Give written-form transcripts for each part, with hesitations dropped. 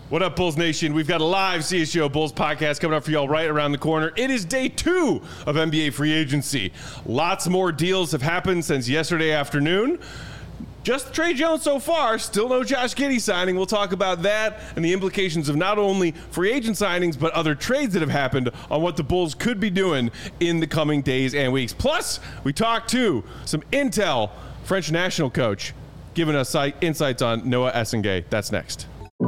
What up, Bulls Nation? We've got a live CSGO Bulls podcast coming up for y'all right around the corner. It is day 2 of NBA free agency. Lots more deals have happened since yesterday afternoon. Just Tre Jones so far, still no Josh Giddey signing. We'll talk about that and the implications of not only free agent signings, but other trades that have happened on what the Bulls could be doing in the coming days and weeks. Plus, we talked to some intel, French national coach, giving us insights on Noah Essengay. That's next.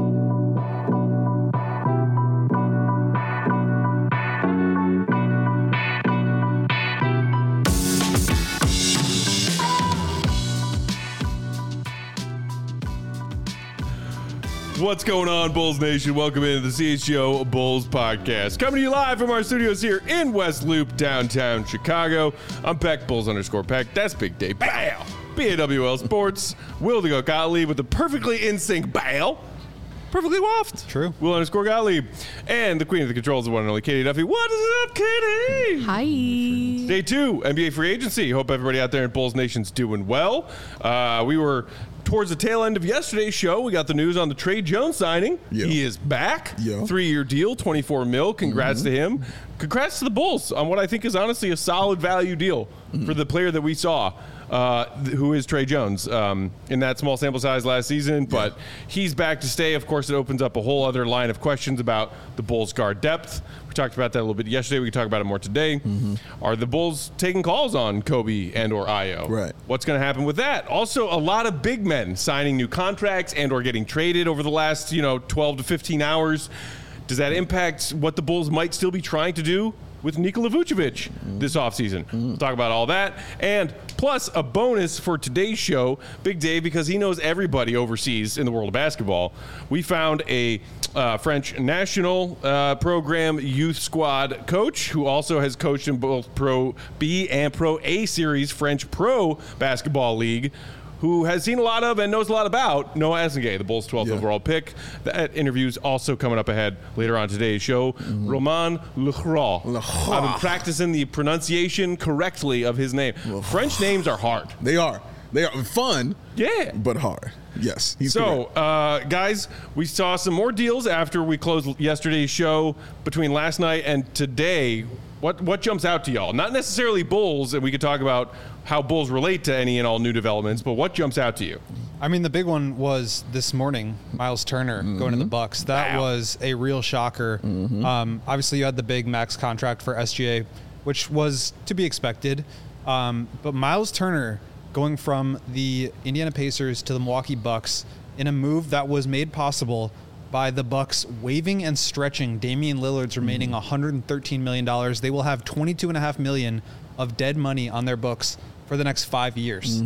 What's going on, Bulls Nation? Welcome into the CSGO Bulls podcast. Coming to you live from our studios here in West Loop, downtown Chicago. I'm Peck, Bulls_Peck. That's Big Day. Bow! BAWL Sports. Will the Go Gottlieb with the perfectly in sync bow. Perfectly waft. True. Will_Gottlieb. And the queen of the controls, the one and only Katie Duffy. What is up, Katie? Hi. Day 2, NBA free agency. Hope everybody out there in Bulls Nation's doing well. We were towards the tail end of yesterday's show. We got the news on the Tre Jones signing. Yeah. He is back. Yeah. 3-year deal, $24 million. Congrats to him. Congrats to the Bulls on what I think is honestly a solid value deal for the player that we saw. Who is Tre Jones in that small sample size last season, but he's back to stay. Of course, it opens up a whole other line of questions about the Bulls' guard depth. We talked about that a little bit yesterday. We can talk about it more today. Are the Bulls taking calls on Kobe and or Ayo? Right. What's going to happen with that? Also, a lot of big men signing new contracts and or getting traded over the last 12 to 15 hours. Does that impact what the Bulls might still be trying to do with Nikola Vucevic this offseason? We'll talk about all that. And plus a bonus for today's show, Big Dave, because he knows everybody overseas in the world of basketball. We found a French national program youth squad coach who also has coached in both Pro B and Pro A series French Pro Basketball League, who has seen a lot of and knows a lot about Noah Essengay, the Bulls' 12th overall pick. That interview's also coming up ahead later on today's show. Romain Lecroix. I've been practicing the pronunciation correctly of his name. French names are hard. They are. They are fun. Yeah. But hard. Yes. Guys, we saw some more deals after we closed yesterday's show. Between last night and today, what jumps out to y'all? Not necessarily Bulls, and we could talk about how Bulls relate to any and all new developments, but what jumps out to you? I mean, the big one was this morning, Miles Turner going to the Bucks. That was a real shocker. Obviously, you had the big max contract for SGA, which was to be expected. But Miles Turner going from the Indiana Pacers to the Milwaukee Bucks in a move that was made possible by the Bucks waiving and stretching Damian Lillard's remaining $113 million. They will have $22.5 million of dead money on their books for the next 5 years.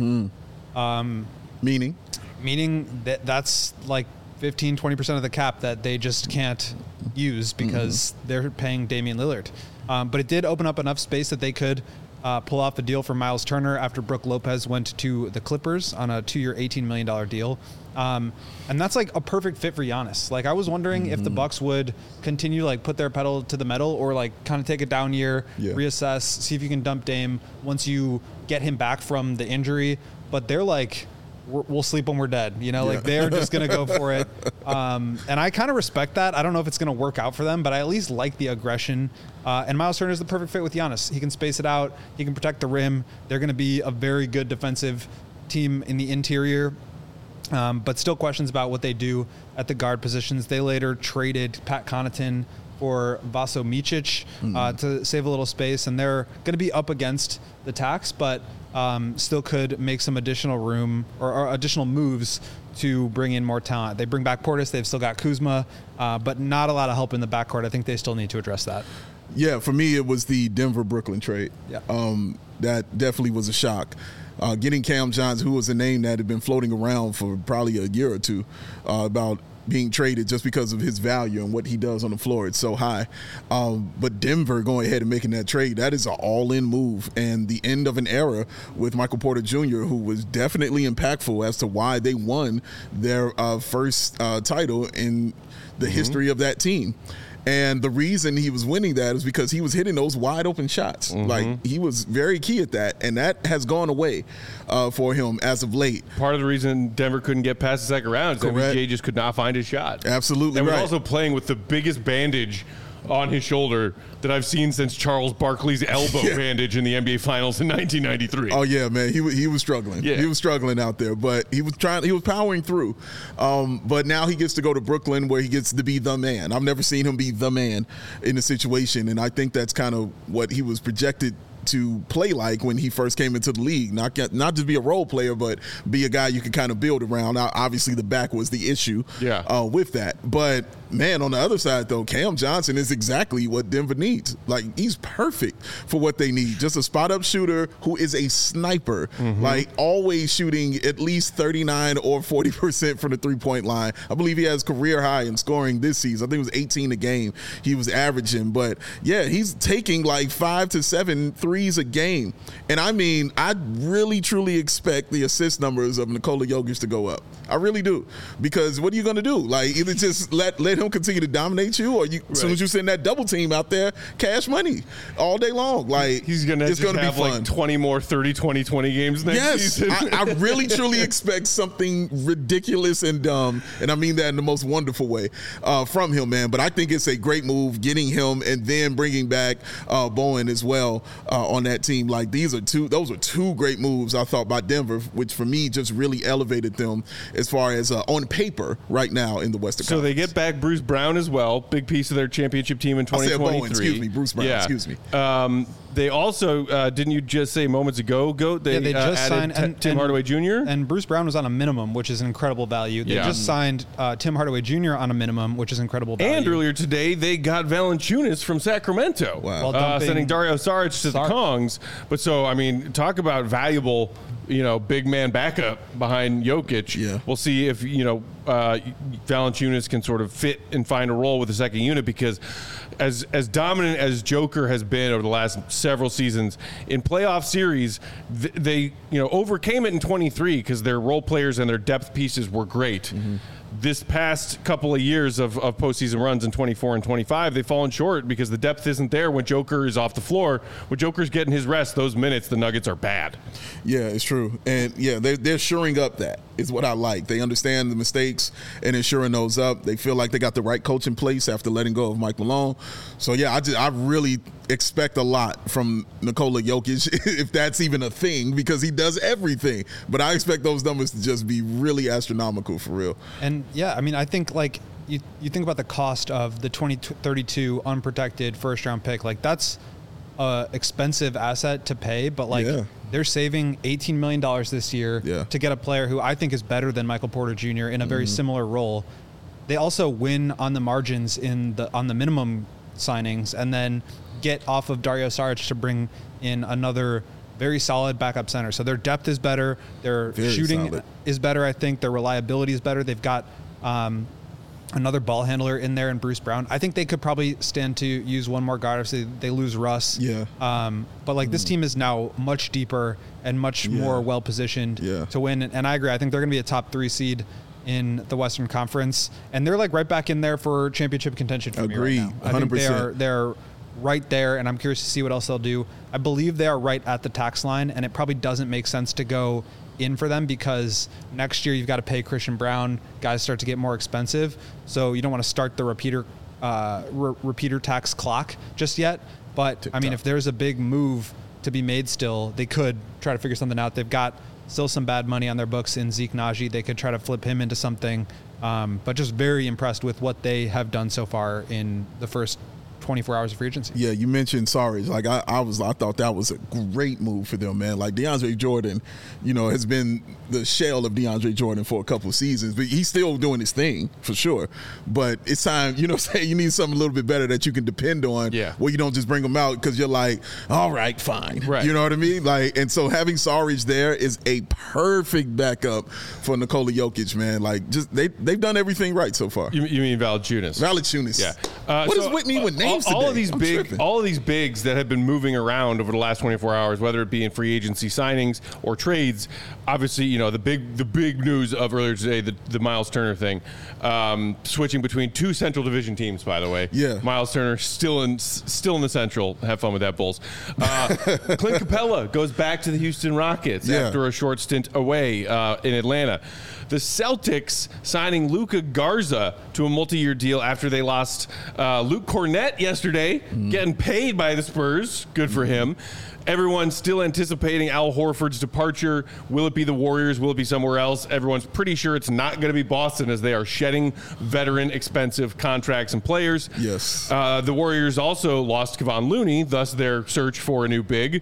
Meaning that's like 15-20% of the cap that they just can't use because they're paying Damian Lillard. But it did open up enough space that they could pull off the deal for Miles Turner after Brook Lopez went to the Clippers on a 2-year, $18 million deal. And that's like a perfect fit for Giannis. Like, I was wondering if the Bucks would continue to like put their pedal to the metal or like kind of take a down year, reassess, see if you can dump Dame once you get him back from the injury. But they're like, we'll sleep when we're dead. Like they're just going to go for it. And I kind of respect that. I don't know if it's going to work out for them, but I at least like the aggression. And Miles Turner is the perfect fit with Giannis. He can space it out. He can protect the rim. They're going to be a very good defensive team in the interior. But still questions about what they do at the guard positions. They later traded Pat Connaughton for Vaso Micic to save a little space, and they're going to be up against the tax, but still could make some additional room or additional moves to bring in more talent. They bring back Portis. They've still got Kuzma, but not a lot of help in the backcourt. I think they still need to address that. Yeah, for me, it was the Denver-Brooklyn trade. Yeah. That definitely was a shock. Getting Cam Johnson, who was a name that had been floating around for probably a year or two about being traded just because of his value and what he does on the floor. It's so high. But Denver going ahead and making that trade, that is an all-in move and the end of an era with Michael Porter Jr., who was definitely impactful as to why they won their first title in the history of that team. And the reason he was winning that is because he was hitting those wide open shots. Like, he was very key at that, and that has gone away for him as of late. Part of the reason Denver couldn't get past the second round is that Correct. MJ just could not find his shot. Absolutely and right. was also playing with the biggest bandage on his shoulder that I've seen since Charles Barkley's elbow bandage in the NBA Finals in 1993. Oh yeah, man, he was struggling. Yeah. He was struggling out there, but he was powering through. But now he gets to go to Brooklyn, where he gets to be the man. I've never seen him be the man in a situation, and I think that's kind of what he was projected to play like when he first came into the league. Not just be a role player, but be a guy you can kind of build around. Now, obviously, the back was the issue with that. But, man, on the other side, though, Cam Johnson is exactly what Denver needs. Like, he's perfect for what they need. Just a spot-up shooter who is a sniper, like always shooting at least 39 or 40% from the three-point line. I believe he has career high in scoring this season. I think it was 18 a game he was averaging. But, yeah, he's taking like 5 to 7 threes a game. And I mean, I really, truly expect the assist numbers of Nikola Jokic to go up. I really do. Because what are you going to do? Like, either just let him continue to dominate you, or as soon as you send that double team out there, cash money all day long. Like, he's going to have like 20 more 30, 20, 20 games next season. I really, truly expect something ridiculous and dumb, and I mean that in the most wonderful way, from him, man. But I think it's a great move, getting him and then bringing back Bowen as well on that team. Like, those are two great moves, I thought, by Denver, which for me just really elevated them as far as on paper right now in the Western So Conference. they get back Bruce Brown as well, big piece of their championship team in 2023. I said Bowen, excuse me, Bruce Brown, excuse me. They also, didn't you just say moments ago, Goat? They just added signed Tim Hardaway Jr.? And Bruce Brown was on a minimum, which is an incredible value. They just signed Tim Hardaway Jr. on a minimum, which is incredible value. And earlier today, they got Valanciunas from Sacramento. Wow. Sending Dario Saric to the Kongs. But so, I mean, talk about valuable, big man backup behind Jokic. Yeah. We'll see if, Valanciunas can sort of fit and find a role with the second unit, because as dominant as Joker has been over the last several seasons in playoff series, they overcame it in 23 because their role players and their depth pieces were great. This past couple of years of postseason runs in 24 and 25, they've fallen short because the depth isn't there when Joker is off the floor. When Joker's getting his rest, those minutes, the Nuggets are bad. Yeah, it's true. And, yeah, they're shoring up that is what I like. They understand the mistakes and ensuring those up. They feel like they got the right coach in place after letting go of Mike Malone. So, yeah, I really expect a lot from Nikola Jokic, if that's even a thing, because he does everything. But I expect those numbers to just be really astronomical for real. And, yeah, I mean, I think, like, you think about the cost of the 2032 unprotected first-round pick. Like, that's an expensive asset to pay, but, like, they're saving $18 million this year to get a player who I think is better than Michael Porter Jr. in a very similar role. They also win on the margins on the minimum signings, and then get off of Dario Saric to bring in another very solid backup center. So their depth is better. Their shooting is better, I think. Their reliability is better. They've got another ball handler in there in Bruce Brown. I think they could probably stand to use one more guard. Obviously, they lose Russ. But, like, this team is now much deeper and much more well-positioned to win. And I agree. I think they're going to be a top 3 seed in the Western Conference. And they're, like, right back in there for championship contention for me right now. I 100%. think they're right there, and I'm curious to see what else they'll do. I believe they are right at the tax line, and it probably doesn't make sense to go in for them because next year you've got to pay Christian Brown. Guys start to get more expensive, so you don't want to start the repeater tax clock just yet. But, I mean, if there's a big move to be made still, they could try to figure something out. They've got still some bad money on their books in Zeke Naji. They could try to flip him into something, but just very impressed with what they have done so far in the first 24 hours of free agency. Yeah, you mentioned Saric. Like I thought that was a great move for them, man. Like DeAndre Jordan, has been the shell of DeAndre Jordan for a couple of seasons, but he's still doing his thing for sure. But it's time, you need something a little bit better that you can depend on. Yeah. Where you don't just bring him out because you're like, all right, fine. Right. You know what I mean? Like, and so having Saric there is a perfect backup for Nikola Jokic, man. Like, just they've done everything right so far. You mean Valanciunas? Valanciunas. Yeah. What is with me with names? games all today. of these I'm big, tripping. all of these bigs that have been moving around over the last 24 hours, whether it be in free agency signings or trades. Obviously, you know the big news of earlier today, the Miles Turner thing, switching between two Central Division teams. By the way, Yeah. Miles Turner still in the Central. Have fun with that, Bulls. Clint Capella goes back to the Houston Rockets Yeah. after a short stint away in Atlanta. The Celtics signing Luka Garza to a multi-year deal after they lost Luke Cornett yesterday, getting paid by the Spurs. Good for him. Everyone's still anticipating Al Horford's departure. Will it be the Warriors? Will it be somewhere else? Everyone's pretty sure it's not going to be Boston, as they are shedding veteran, expensive contracts and players. Yes. The Warriors also lost Kevon Looney, thus their search for a new big.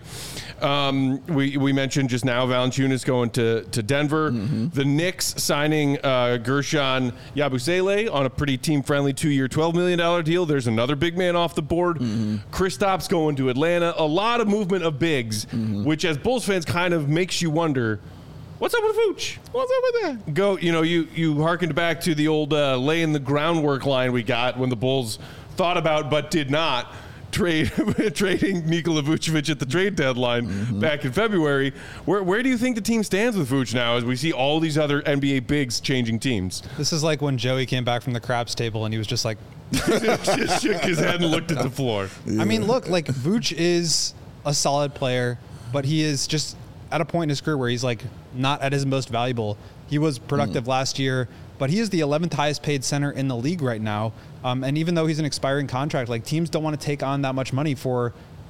We mentioned just now Valanciunas going to Denver. The Knicks signing Gershon Yabusele on a pretty team-friendly 2-year, $12 million deal. There's another big man off the board. Kristaps going to Atlanta. A lot of movement of bigs, which as Bulls fans kind of makes you wonder, what's up with Vooch? What's up with that? You harkened back to the old laying the groundwork line we got when the Bulls thought about but did not trading Nikola Vucevic at the trade deadline back in February. Where do you think the team stands with Vooch now as we see all these other NBA bigs changing teams? This is like when Joey came back from the craps table and he was just like, Just shook his head and looked at the floor. I mean, look, like Vooch is a solid player, but he is just at a point in his career where he's like not at his most valuable. He was productive last year, but he is the 11th highest paid center in the league right now. And even though he's an expiring contract, like teams don't want to take on that much money for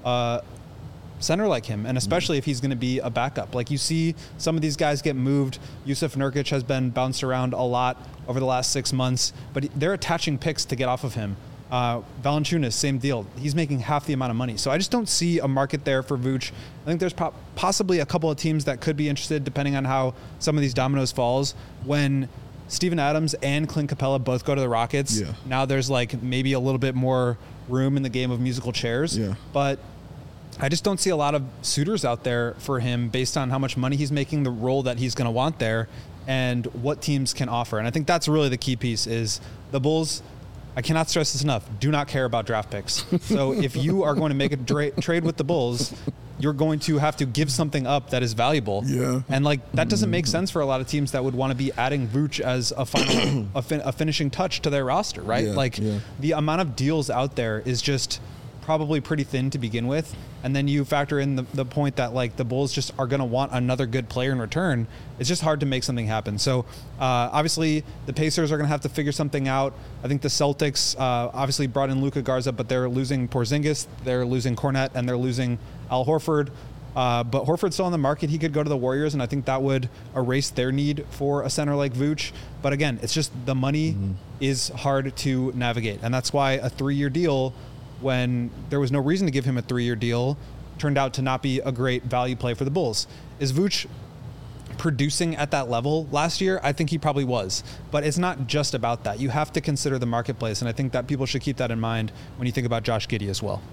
center like him, and especially if he's going to be a backup. Like you see some of these guys get moved. Yusuf Nurkic has been bounced around a lot over the last 6 months, but they're attaching picks to get off of him. Valanciunas, same deal. He's making half the amount of money. So I just don't see a market there for Vooch. I think there's possibly a couple of teams that could be interested depending on how some of these dominoes falls. When Steven Adams and Clint Capella both go to the Rockets, now there's like maybe a little bit more room in the game of musical chairs. But I just don't see a lot of suitors out there for him based on how much money he's making, the role that he's going to want there, and what teams can offer. And I think that's really the key piece is the Bulls, I cannot stress this enough, do not care about draft picks. So if you are going to make a trade with the Bulls, you're going to have to give something up that is valuable. And like that doesn't make sense for a lot of teams that would want to be adding Vooch as a final a finishing touch to their roster, right? The amount of deals out there is just probably pretty thin to begin with, and then you factor in the point that like the Bulls just are going to want another good player in return. It's just hard to make something happen. So obviously the Pacers are going to have to figure something out. I think the Celtics obviously brought in Luka Garza, but they're losing Porzingis, they're losing Cornette, and they're losing Al Horford. But Horford's still on the market. He could go to the Warriors, and I think that would erase their need for a center like Vooch. But again, it's just the money is hard to navigate, and that's why a 3-year deal, when there was no reason to give him a 3-year deal, turned out to not be a great value play for the Bulls. Is Vooch producing at that level last year? I think he probably was. But it's not just about that. You have to consider the marketplace, and I think that people should keep that in mind when you think about Josh Giddey as well.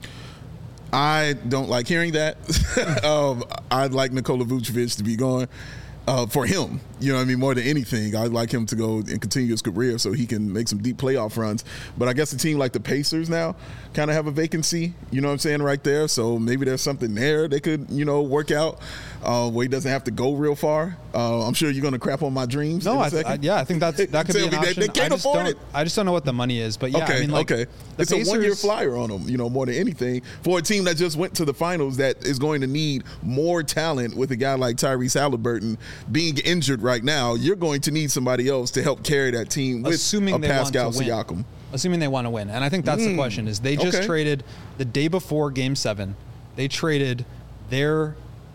I don't like hearing that. I'd like Nikola Vucevic to be gone. For him, you know what I mean, more than anything, I'd like him to go and continue his career so he can make some deep playoff runs. But I guess a team like the Pacers now kind of have a vacancy, you know what I'm saying, right there. So maybe there's something there they could, work out where he doesn't have to go real far. I'm sure you're going to crap on my dreams. No, I think that could be an option. They can't afford it. I just don't know what the money is. But yeah, okay, I mean, like, it's Pacers, a 1-year flyer on them, more than anything. For a team that just went to the finals that is going to need more talent with a guy like Tyrese Halliburton being injured right now, you're going to need somebody else to help carry that team with a Pascal Siakam. Assuming they want to win. And I think that's the question, is they just traded the day before Game 7. They traded for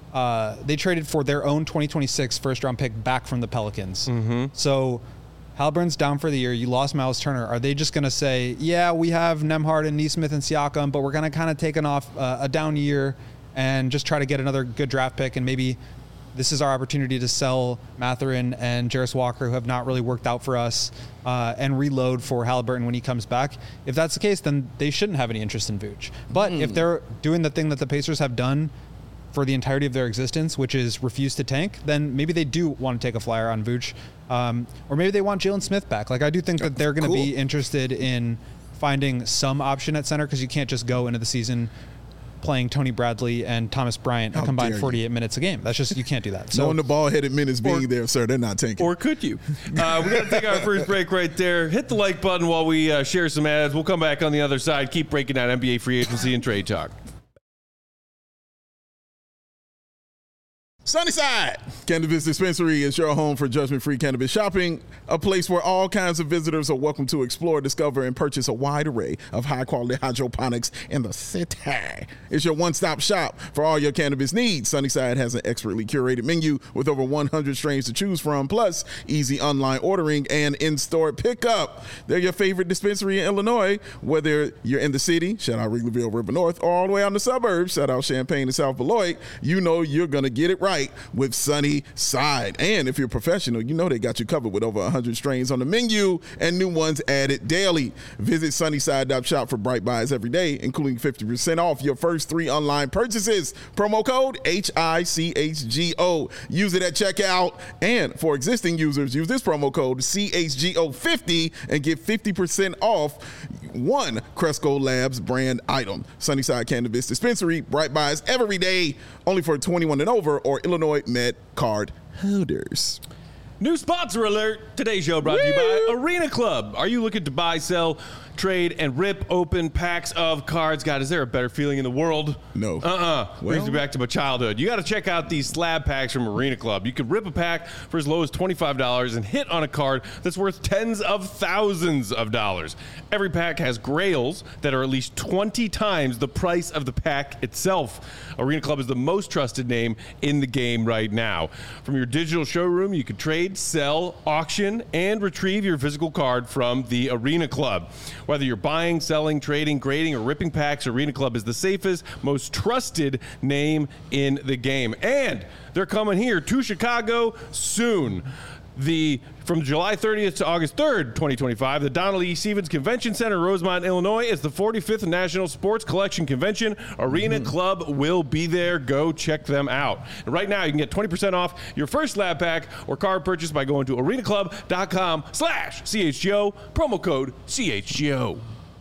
their own 2026 first-round pick back from the Pelicans. So Halliburton's down for the year. You lost Miles Turner. Are they just going to say, yeah, we have Nembhard and Nesmith and Siakam, but we're going to kind of take a down year and just try to get another good draft pick, and maybe this is our opportunity to sell Mathurin and Jarris Walker, who have not really worked out for us, and reload for Halliburton when he comes back? If that's the case, then they shouldn't have any interest in Vooch. But if they're doing the thing that the Pacers have done for the entirety of their existence, which is refuse to tank, then maybe they do want to take a flyer on Vooch. Or maybe they want Jalen Smith back. Like, I do think that they're going to be interested in finding some option at center, because you can't just go into the season playing Tony Bradley and Thomas Bryant a combined 48 minutes a game. That's just, you can't do that. So, knowing the ball-headed minutes being there, sir, they're not tanking. Or could you? We got to take our first break right there. Hit the like button while we share some ads. We'll come back on the other side. Keep breaking down NBA free agency and trade talk. Sunnyside Cannabis Dispensary is your home for judgment-free cannabis shopping, a place where all kinds of visitors are welcome to explore, discover, and purchase a wide array of high-quality hydroponics in the city. It's your one-stop shop for all your cannabis needs. Sunnyside has an expertly curated menu with over 100 strains to choose from, plus easy online ordering and in-store pickup. They're your favorite dispensary in Illinois, whether you're in the city, shout out Wrigleyville, River North, or all the way out in the suburbs, shout out Champaign and South Beloit. You know you're going to get it right with Sunnyside. And if you're a professional, you know they got you covered with over 100 strains on the menu and new ones added daily. Visit Sunnyside.shop for bright buys every day, including 50% off your first 3 online purchases. Promo code HICHGO. Use it at checkout. And for existing users, use this promo code CHGO50 and get 50% off one Cresco Labs brand item. Sunnyside Cannabis Dispensary, bright buys every day, only for 21 and over or Illinois Med card holders. New sponsor alert. Today's show brought to you by Arena Club. Are you looking to buy, sell, trade, and rip open packs of cards? God, is there a better feeling in the world? No. Brings me back to my childhood. You got to check out these slab packs from Arena Club. You can rip a pack for as low as $25 and hit on a card that's worth tens of thousands of dollars. Every pack has grails that are at least 20 times the price of the pack itself. Arena Club is the most trusted name in the game right now. From your digital showroom, you can trade, sell, auction, and retrieve your physical card from the Arena Club. Whether you're buying, selling, trading, grading, or ripping packs, Arena Club is the safest, most trusted name in the game. And they're coming here to Chicago soon. From July 30th to August 3rd, 2025, the Donald E. Stevens Convention Center, Rosemont, Illinois, is the 45th National Sports Collection Convention. Arena Club will be there. Go check them out. And right now, you can get 20% off your first lab pack or card purchase by going to arenaclub.com/CHGO, promo code CHGO.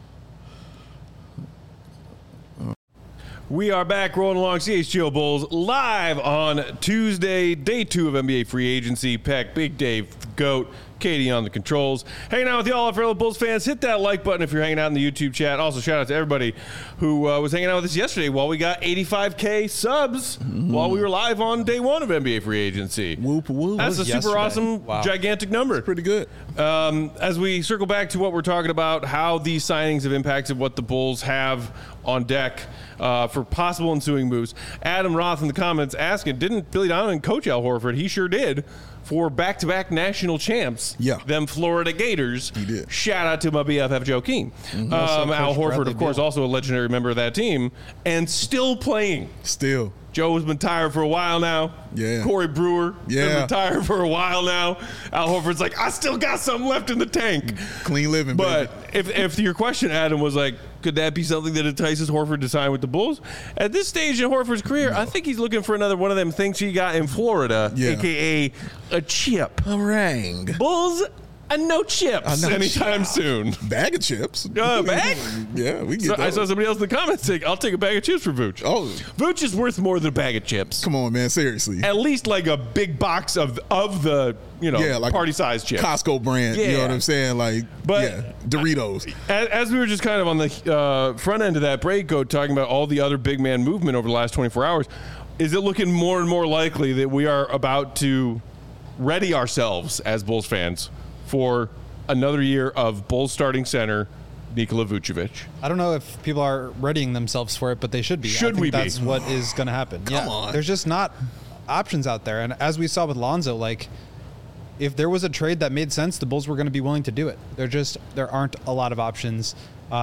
We are back rolling along CHGO Bulls live on Tuesday, day 2 of NBA free agency. Peck, Big Dave, GOAT, Katie on the controls. Hanging out with you all, our fellow Bulls fans. Hit that like button if you're hanging out in the YouTube chat. Also, shout out to everybody who was hanging out with us yesterday while we got 85K subs while we were live on day 1 of NBA free agency. Whoop, whoop. That's a super awesome, gigantic number. That's pretty good. As we circle back to what we're talking about, how these signings have impacted what the Bulls have on deck for possible ensuing moves. Adam Roth in the comments asking, didn't Billy Donovan coach Al Horford? He sure did. For back-to-back national champs, them Florida Gators. He did. Shout out to my BFF Joe King. Al Horford, of course, also a legendary member of that team, and still playing. Still. Joe has been tired for a while now. Yeah. Corey Brewer been tired for a while now. Al Horford's like, I still got something left in the tank. Clean living, but baby. If your question, Adam, was like, could that be something that entices Horford to sign with the Bulls? At this stage in Horford's career, I think he's looking for another one of them things he got in Florida, a.k.a. a chip. A ring. Bulls, no chips anytime soon. Bag of chips. Bag? Yeah, we get those. I saw somebody else in the comments say, I'll take a bag of chips for Vooch. Oh. Vooch is worth more than a bag of chips. Come on, man. Seriously. At least like a big box of the, like party-sized chips. Costco brand. Yeah. You know what I'm saying? Doritos. As we were just kind of on the front end of that break, talking about all the other big man movement over the last 24 hours, is it looking more and more likely that we are about to ready ourselves as Bulls fans for another year of Bulls starting center Nikola Vucevic? I don't know if people are readying themselves for it, but they should be. That's what is going to happen. Come on. There's just not options out there. And as we saw with Lonzo, if there was a trade that made sense, the Bulls were going to be willing to do it. There aren't a lot of options.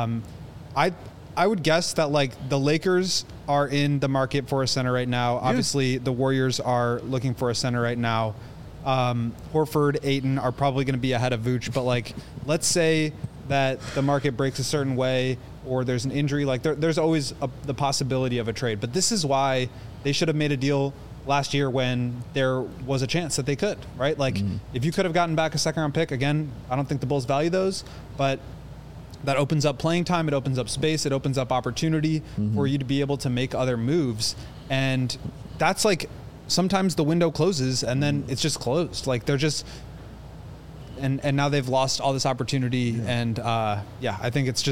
I would guess that the Lakers are in the market for a center right now. Yeah. Obviously, the Warriors are looking for a center right now. Horford, Ayton are probably going to be ahead of Vooch, but let's say that the market breaks a certain way or there's an injury, there's always the possibility of a trade. But this is why they should have made a deal last year when there was a chance that they could, right? If you could have gotten back a second round pick, again, I don't think the Bulls value those, but that opens up playing time. It opens up space. It opens up opportunity for you to be able to make other moves. And that's like, sometimes the window closes and then it's just closed. Like they're just, and now they've lost all this opportunity. And I think it's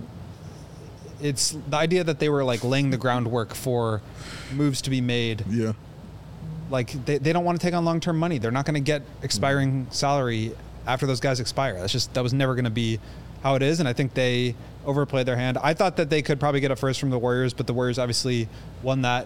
the idea that they were like laying the groundwork for moves to be made. Yeah. Like they don't want to take on long-term money. They're not going to get expiring salary after those guys expire. That was never going to be how it is. And I think they overplayed their hand. I thought that they could probably get a first from the Warriors, but the Warriors obviously won that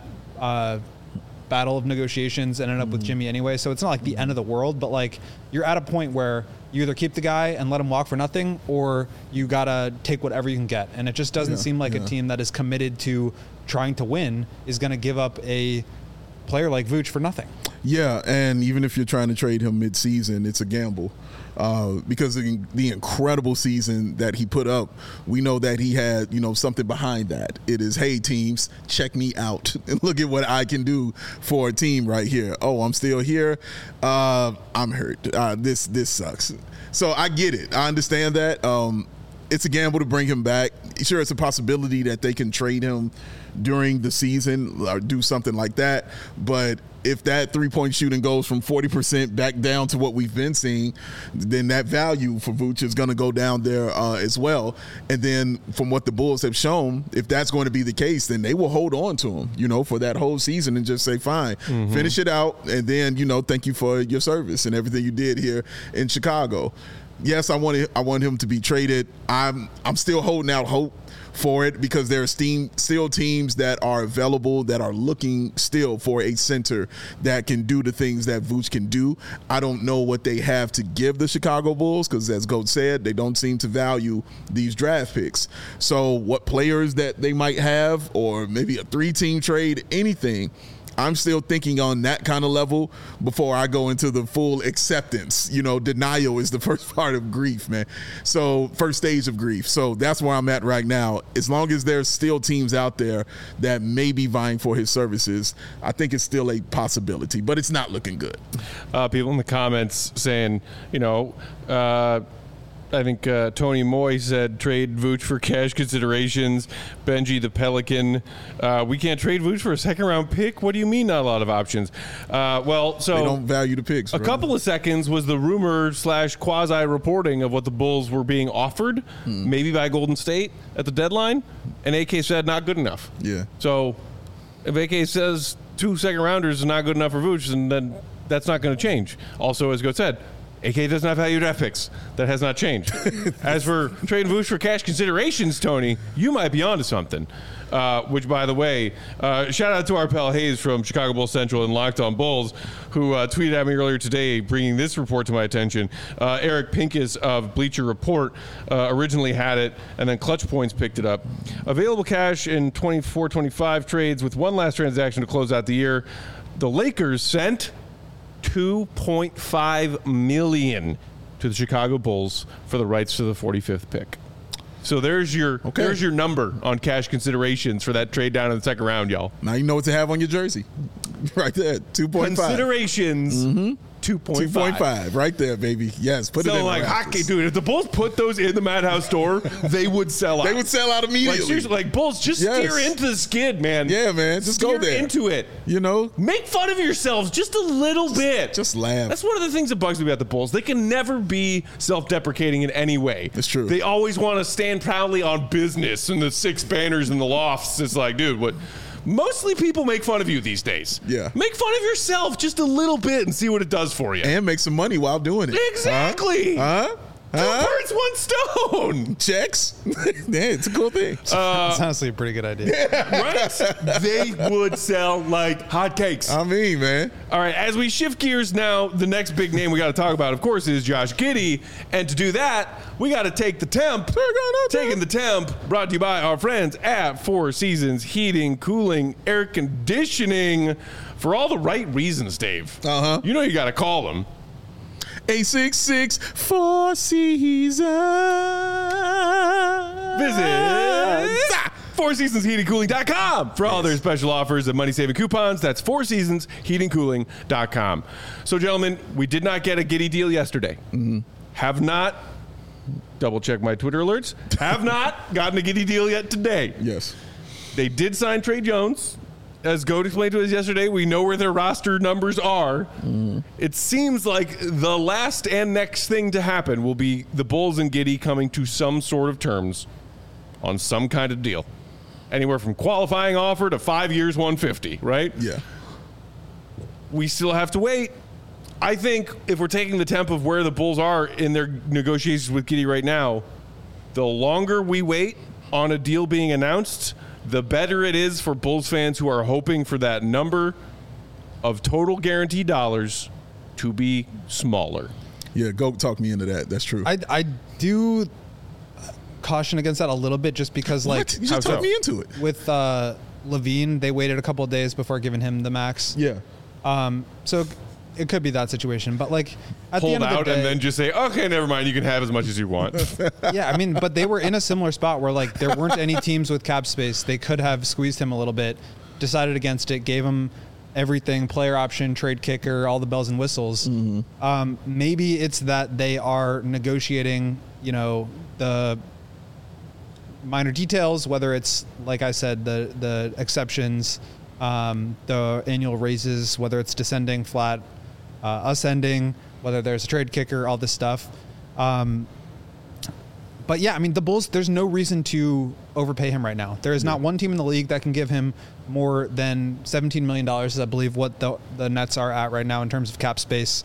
battle of negotiations and ended up with Jimmy anyway. So it's not like the end of the world, but like you're at a point where you either keep the guy and let him walk for nothing, or you got to take whatever you can get. And it just doesn't seem like a team that is committed to trying to win is going to give up a player like Vooch for nothing. Yeah, and even if you're trying to trade him mid-season, it's a gamble. Because of the incredible season that he put up, we know that he had, something behind that. It is, hey, teams, check me out and look at what I can do for a team right here. Oh, I'm still here. I'm hurt. This sucks. So I get it. I understand that. It's a gamble to bring him back. Sure, it's a possibility that they can trade him during the season or do something like that. But if that three-point shooting goes from 40% back down to what we've been seeing, then that value for Vooch is going to go down there as well. And then from what the Bulls have shown, if that's going to be the case, then they will hold on to him, for that whole season and just say, fine, finish it out. And then, thank you for your service and everything you did here in Chicago. Yes, I want him to be traded. I'm still holding out hope for it because there are still teams that are available that are looking still for a center that can do the things that Vooch can do. I don't know what they have to give the Chicago Bulls because, as Goat said, they don't seem to value these draft picks. So what players that they might have, or maybe a 3-team trade, anything, I'm still thinking on that kind of level before I go into the full acceptance. Denial is the first part of grief, man. So first stage of grief. So that's where I'm at right now. As long as there's still teams out there that may be vying for his services, I think it's still a possibility, but it's not looking good. People in the comments saying, I think Tony Moy said trade Vooch for cash considerations. Benji the Pelican, we can't trade Vooch for a second-round pick? What do you mean not a lot of options? So they don't value the picks. A couple of seconds was the rumor / quasi-reporting of what the Bulls were being offered, maybe by Golden State at the deadline, and AK said not good enough. Yeah. So if AK says 2 second-rounders is not good enough for Vooch, then that's not going to change. Also, as Goat said, AK doesn't have value draft picks. That has not changed. As for trading Vooch for cash considerations, Tony, you might be onto something. Which, by the way, shout out to our pal Hayes from Chicago Bulls Central and Locked On Bulls, who tweeted at me earlier today, bringing this report to my attention. Eric Pincus of Bleacher Report originally had it, and then Clutch Points picked it up. Available cash in 24-25 trades with one last transaction to close out the year. The Lakers sent $2.5 million to the Chicago Bulls for the rights to the 45th pick. So there's your number on cash considerations for that trade down in the second round, y'all. Now you know what to have on your jersey. Right there, 2.5. Considerations, 2.5. Right there, baby. Yes, put it in. So like hockey, dude, if the Bulls put those in the Madhouse store, they would sell out. They would sell out immediately. Like seriously, like Bulls, just steer into the skid, man. Yeah, man, just go there. Into it. Make fun of yourselves just a little bit. Just laugh. That's one of the things that bugs me about the Bulls. They can never be self-deprecating in any way. It's true. They always want to stand proudly on business and the 6 banners in the lofts. It's like, dude, what? Mostly people make fun of you these days. Yeah. Make fun of yourself just a little bit and see what it does for you. And make some money while doing it. Exactly. Two birds, one stone. Checks. Yeah, it's a cool thing. It's honestly a pretty good idea. Right? They would sell like hotcakes. I mean, man. All right, as we shift gears now, the next big name we got to talk about, of course, is Josh Giddey. And to do that, we got to take the temp. Taking the temp, brought to you by our friends at Four Seasons Heating, Cooling, Air Conditioning. For all the right reasons, Dave. You know you got to call them. 866 Four Seasons. Visit FourSeasonsHeatingCooling.com for all their special offers and money-saving coupons. That's FourSeasonsHeatingCooling.com. So, gentlemen, we did not get a Giddey deal yesterday. Have not double check my Twitter alerts, have not gotten a Giddey deal yet today. Yes. They did sign Trey Jones. As Goat explained to us yesterday, we know where their roster numbers are. It seems like the last and next thing to happen will be the Bulls and Giddey coming to some sort of terms on some kind of deal. Anywhere from qualifying offer to 5 years, 150, right? Yeah. We still have to wait. I think if we're taking the temp of where the Bulls are in their negotiations with Giddey right now, the longer we wait on a deal being announced, the better it is for Bulls fans who are hoping for that number of total guaranteed dollars to be smaller. Yeah, go talk me into that. That's true. I do caution against that a little bit just because, like, what? You just talked me into it. With Levine, they waited a couple of days before giving him the max. Yeah. So it could be that situation, but like at the Hold end of the out day, and then just say, okay, never mind. You can have as much as you want. yeah, I mean, but they were in a similar spot where like there weren't any teams with cap space. They could have squeezed him a little bit, decided against it, gave him everything, player option, trade kicker, all the bells and whistles. Maybe it's that they are negotiating, the minor details, whether it's, like I said, the exceptions, the annual raises, whether it's descending, flat, ascending, whether there's a trade kicker, all this stuff. But yeah, I mean, the Bulls, there's no reason to overpay him right now. There is not one team in the league that can give him more than $17 million, is I believe what the Nets are at right now in terms of cap space.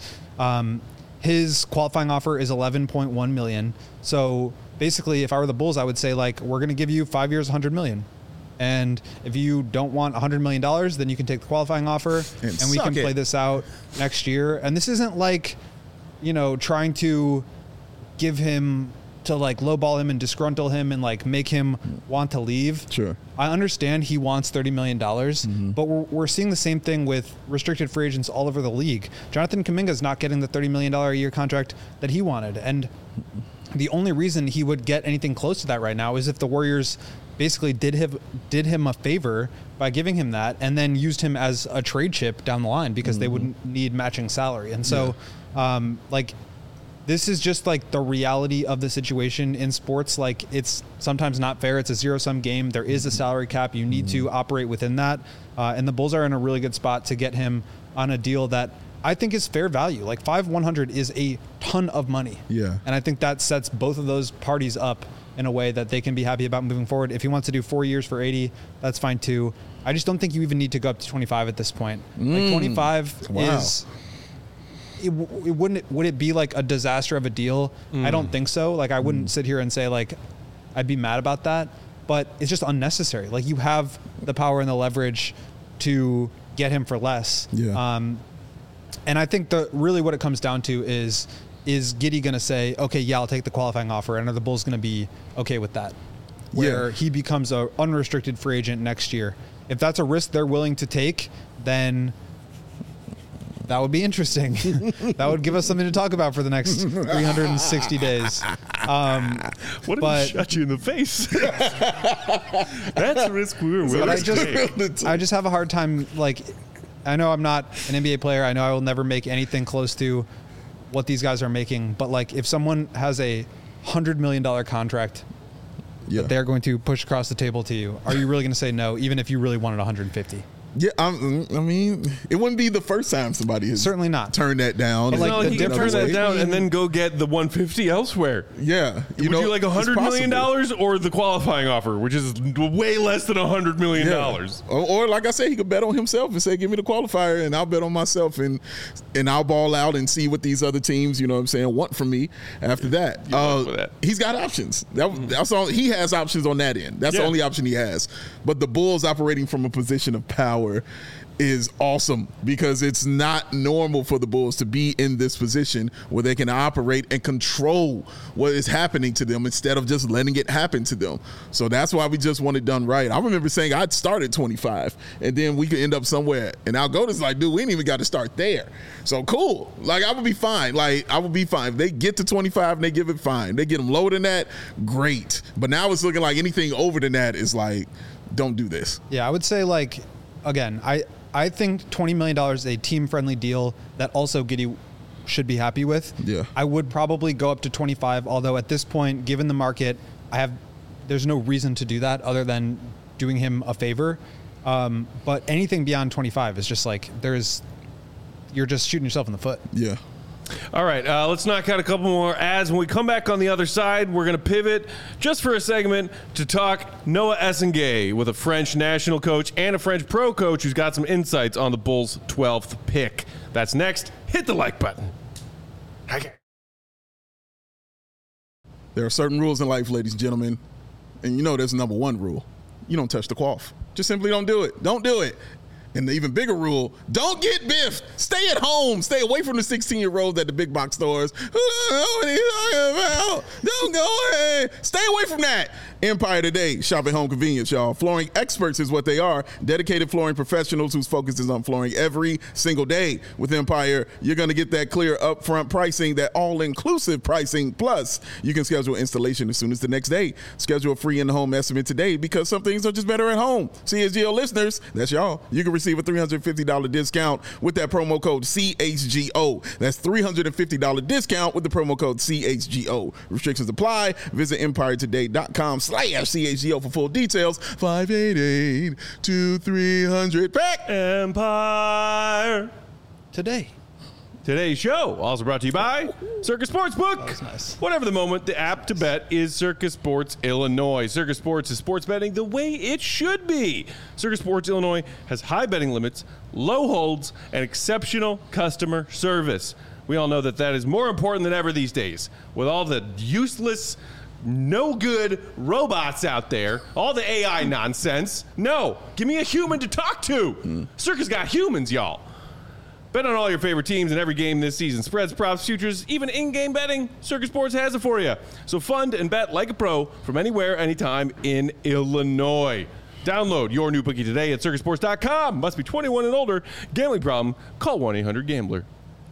His qualifying offer is $11.1 million. So basically, if I were the Bulls, I would say, like, we're going to give you 5 years, $100 million. And if you don't want $100 million, then you can take the qualifying offer and we can play this out next year. And this isn't like, trying to give him to like lowball him and disgruntle him and like make him want to leave. Sure. I understand he wants $30 million, but we're seeing the same thing with restricted free agents all over the league. Jonathan Kuminga's not getting the $30 million a year contract that he wanted. And the only reason he would get anything close to that right now is if the Warriors basically did him a favor by giving him that and then used him as a trade chip down the line because they wouldn't need matching salary. And so, this is just like the reality of the situation in sports. Like, it's sometimes not fair. It's a zero-sum game. There is a salary cap. You need to operate within that. And the Bulls are in a really good spot to get him on a deal that I think is fair value. Like 5,100 is a ton of money. Yeah. And I think that sets both of those parties up in a way that they can be happy about moving forward. If he wants to do 4 years for 80, that's fine too. I just don't think you even need to go up to 25 at this point. Like 25 is... Would it be like a disaster of a deal? I don't think so. Like, I wouldn't sit here and say like I'd be mad about that, but it's just unnecessary. Like, you have the power and the leverage to get him for less. Yeah. And I think really what it comes down to is Giddey going to say, okay, yeah, I'll take the qualifying offer, and are the Bulls going to be okay with that? Where he becomes an unrestricted free agent next year. If that's a risk they're willing to take, then that would be interesting. That would give us something to talk about for the next 360 days. What if he shut you in the face? That's a risk we were willing to take. I just have a hard time. Like, I know I'm not an NBA player. I know I will never make anything close to what these guys are making. But like, if someone has a $100 million contract that they're going to push across the table to you, are you really going to say no, even if you really wanted 150? Yeah, I mean, it wouldn't be the first time somebody has certainly not turned that down. Like, no, he can turn that down and then go get the 150 elsewhere. Yeah, Would you like $100 million or the qualifying offer, which is way less than $100 million? Yeah. Or like I said, he could bet on himself and say, "Give me the qualifier, and I'll bet on myself, and I'll ball out and see what these other teams, want from me after that." He's got options. That's all. He has options on that end. That's the only option he has. But the Bulls operating from a position of power is awesome because it's not normal for the Bulls to be in this position where they can operate and control what is happening to them instead of just letting it happen to them. So that's why we just want it done right. I remember saying I'd start at 25 and then we could end up somewhere. And Algoda's like, dude, we ain't even got to start there. So cool. Like, I would be fine. If they get to 25 and they give it, fine. They get them lower than that, great. But now it's looking like anything over than that is like, don't do this. Yeah, I would say, like, again, I think $20 million is a team-friendly deal that also Giddey should be happy with. Yeah. I would probably go up to 25, although at this point, given the market, there's no reason to do that other than doing him a favor. But anything beyond 25 is just like, you're just shooting yourself in the foot. Yeah. All right, let's knock out a couple more ads. When we come back on the other side, we're going to pivot just for a segment to talk Noah Essengaye with a French national coach and a French pro coach who's got some insights on the Bulls' 12th pick. That's next. Hit the like button. Okay. There are certain rules in life, ladies and gentlemen, and you know there's a number one rule. You don't touch the quaff. Just simply don't do it. Don't do it. And the even bigger rule, don't get biffed. Stay at home. Stay away from the 16-year-olds at the big box stores. Who don't know what he's talking about? Don't go ahead. Stay away from that. Empire Today. Shop at home convenience, y'all. Flooring experts is what they are. Dedicated flooring professionals whose focus is on flooring every single day. With Empire, you're going to get that clear upfront pricing, that all-inclusive pricing. Plus, you can schedule installation as soon as the next day. Schedule a free in-home estimate today because some things are just better at home. CHGO listeners, that's y'all. You can receive a $350 discount with that promo code CHGO. That's $350 discount with the promo code CHGO. Restrictions apply. Visit EmpireToday.com/CHGO for full details. 588-2300. Pack Empire Today. Today's show also brought to you by Circus Sportsbook. That was nice. Whatever the moment, the app to bet is Circus Sports Illinois. Circus Sports is sports betting the way it should be. Circus Sports Illinois has high betting limits, low holds, and exceptional customer service. We all know that is more important than ever these days. With all the useless, no good robots out there, all the AI nonsense. No, give me a human to talk to. Circus got humans, y'all. Bet on all your favorite teams in every game this season. Spreads, props, futures, even in-game betting. Circus Sports has it for you. So fund and bet like a pro from anywhere, anytime in Illinois. Download your new bookie today at circusports.com. Must be 21 and older. Gambling problem? Call 1-800-GAMBLER.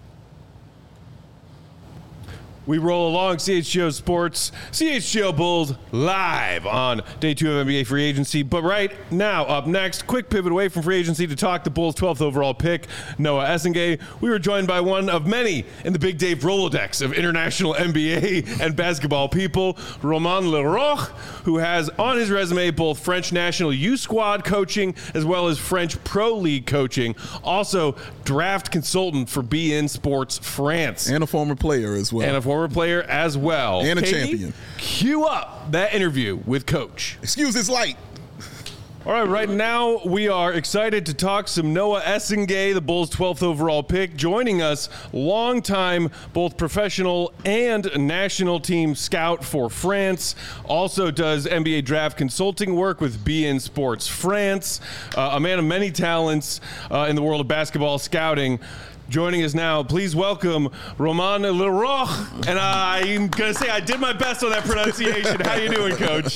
We roll along CHGO Sports, CHGO Bulls live on day 2 of NBA free agency. But right now, up next, quick pivot away from free agency to talk the Bulls' 12th overall pick, Noah Essengaye. We were joined by one of many in the Big Dave Rolodex of international NBA and basketball people, Romain Leroux, who has on his resume both French national youth squad coaching as well as French pro league coaching. Also, draft consultant for beIN Sports France. And a former player as well. And a former player as well. And a Katie, champion. Cue up that interview with Coach. Excuse this light. All right now we are excited to talk some Noah Essengaye, the Bulls' 12th overall pick. Joining us, longtime both professional and national team scout for France. Also does NBA draft consulting work with beIN Sports France. A man of many talents in the world of basketball scouting. Joining us now, please welcome Romain Leroux. And I'm going to say I did my best on that pronunciation. How you doing, Coach?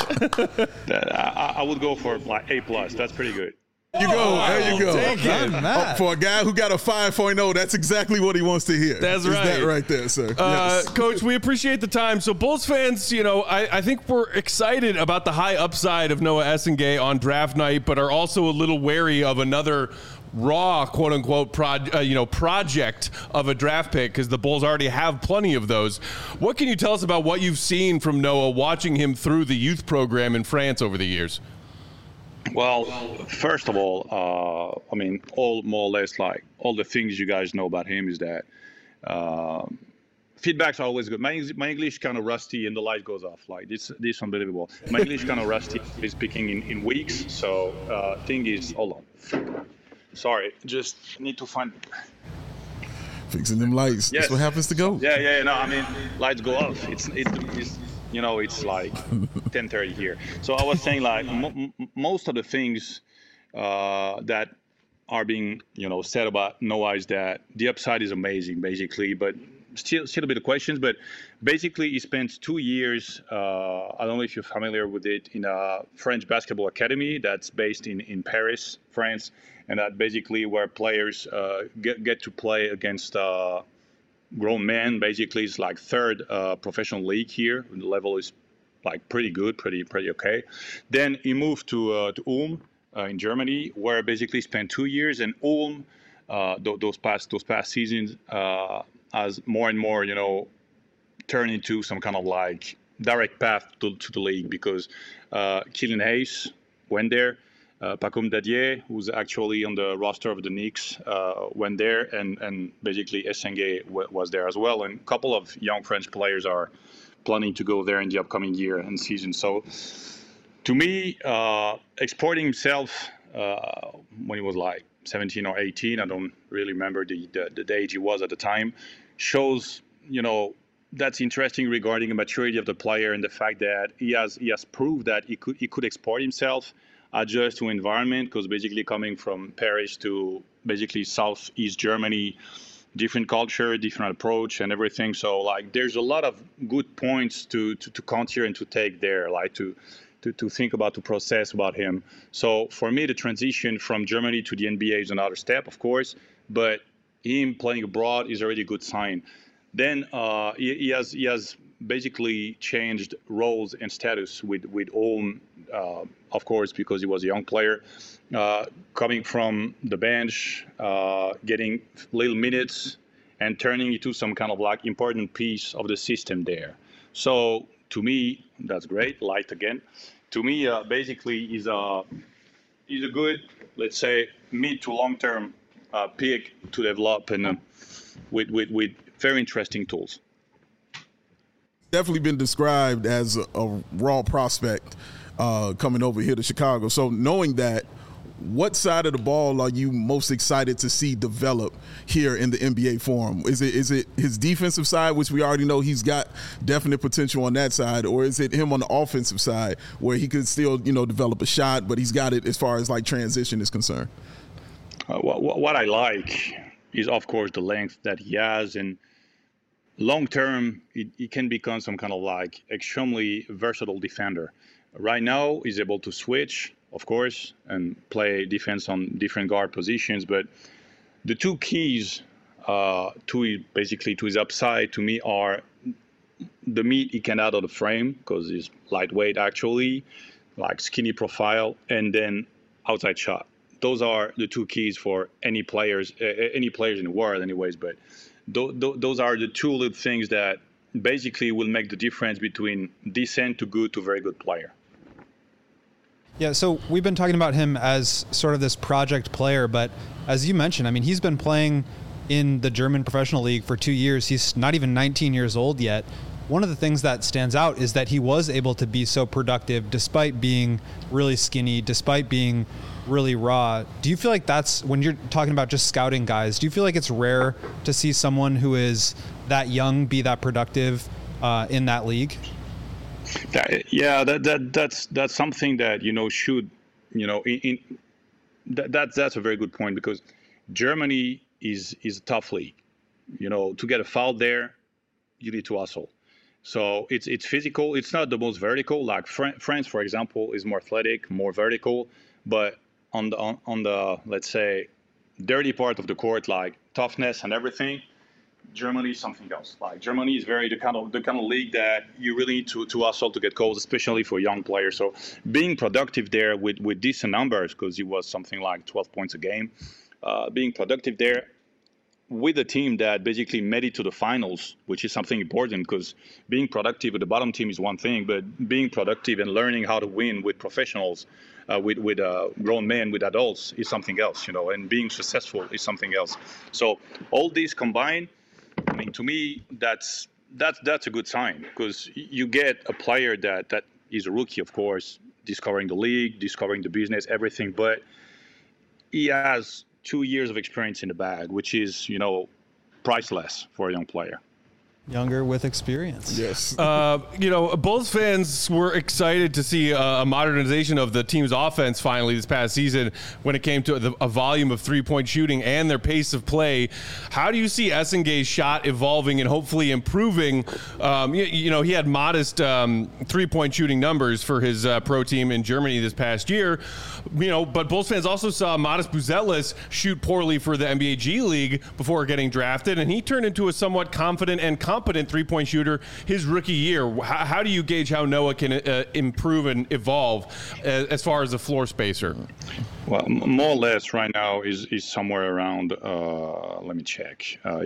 I would go for like A+. That's pretty good. There you go. There you go. Take it. For a guy who got a 5.0, that's exactly what he wants to hear. That's Is right. that right there, sir? Yes. Coach, we appreciate the time. So Bulls fans, I think we're excited about the high upside of Noah Essengaye on draft night, but are also a little wary of another raw, quote unquote, project of a draft pick because the Bulls already have plenty of those. What can you tell us about what you've seen from Noah watching him through the youth program in France over the years? Well, first of all, all more or less like all the things you guys know about him is that feedbacks are always good. My English kind of rusty and the light goes off. Like this unbelievable. My English kind of rusty. Is speaking in weeks. So thing is, hold on. Sorry, just need to find. Fixing them lights. Yes. That's what happens to go. Yeah. No, lights go off. It's like 10:30 here. So I was saying like most of the things that are being said about Noah is that the upside is amazing, basically, but still a bit of questions. But basically, he spent 2 years. I don't know if you're familiar with it, in a French basketball academy that's based in Paris, France. And that basically where players get to play against grown men. Basically, it's like third professional league here. The level is like pretty good, pretty okay. Then he moved to Ulm in Germany, where basically spent 2 years. And Ulm, those past seasons, as more and more, turn into some kind of like direct path to the league, because Killian Hayes went there. Pacome Dadier, who's actually on the roster of the Knicks, went there, and basically Essengue was there as well. And a couple of young French players are planning to go there in the upcoming year and season. So to me, exporting himself when he was like 17 or 18, I don't really remember the age he was at the time, shows, that's interesting regarding the maturity of the player and the fact that he has proved that he could export himself, adjust to environment, because basically coming from Paris to basically Southeast Germany, different culture, different approach and everything. So like there's a lot of good points to consider and to take there, like to think about, to process about him. So for me, the transition from Germany to the NBA is another step, of course, but him playing abroad is already a good sign. Then he has basically changed roles and status with Ulm, of course, because he was a young player, coming from the bench, getting little minutes, and turning into some kind of like important piece of the system there. So to me, that's great. Light again. To me, basically, is a good, let's say, mid to long term pick to develop, and with very interesting tools. Definitely been described as a raw prospect coming over here to Chicago. So knowing that, what side of the ball are you most excited to see develop here in the NBA Forum? Is it his defensive side, which we already know he's got definite potential on that side, or is it him on the offensive side where he could still, develop a shot, but he's got it as far as like transition is concerned? What I like is, of course, the length that he has, and long term, he can become some kind of like extremely versatile defender. Right now, he's able to switch, of course, and play defense on different guard positions. But the two keys to his upside, to me, are the meat he can add on the frame, because he's lightweight actually, like skinny profile, and then outside shot. Those are the two keys for any players in the world, anyways. But those are the two little things that basically will make the difference between decent to good to very good player. Yeah, so we've been talking about him as sort of this project player, but as you mentioned, I mean, he's been playing in the German professional league for 2 years. He's not even 19 years old yet. One of the things that stands out is that he was able to be so productive despite being really skinny, despite being really raw. Do you feel like that's, when you're talking about just scouting guys, do you feel like it's rare to see someone who is that young be that productive in that league? That's something that that's a very good point, because Germany is a tough league. To get a foul there, you need to hustle. So it's physical. It's not the most vertical. Like France, for example, is more athletic, more vertical, but on the let's say dirty part of the court, like toughness and everything, Germany is something else. Like Germany is very the kind of league that you really need to hustle to get goals, especially for young players. So being productive there with decent numbers, because he was something like 12 points a game, being productive there with a team that basically made it to the finals, which is something important, because being productive with the bottom team is one thing, but being productive and learning how to win with professionals, with grown men, with adults, is something else, and being successful is something else. So all these combined, I mean, to me, that's a good sign, because you get a player that is a rookie, of course, discovering the league, discovering the business, everything, but he has 2 years of experience in the bag, which is, priceless for a young player. Younger with experience. Yes. Bulls fans were excited to see a modernization of the team's offense finally this past season when it came to a volume of three-point shooting and their pace of play. How do you see Essengue's shot evolving and hopefully improving? He had modest three-point shooting numbers for his pro team in Germany this past year, but Bulls fans also saw Modest Buzelis shoot poorly for the NBA G League before getting drafted, and he turned into a somewhat confident and competent competent three-point shooter his rookie year. How do you gauge how Noah can improve and evolve as far as a floor spacer? Well, more or less right now is somewhere around, let me check.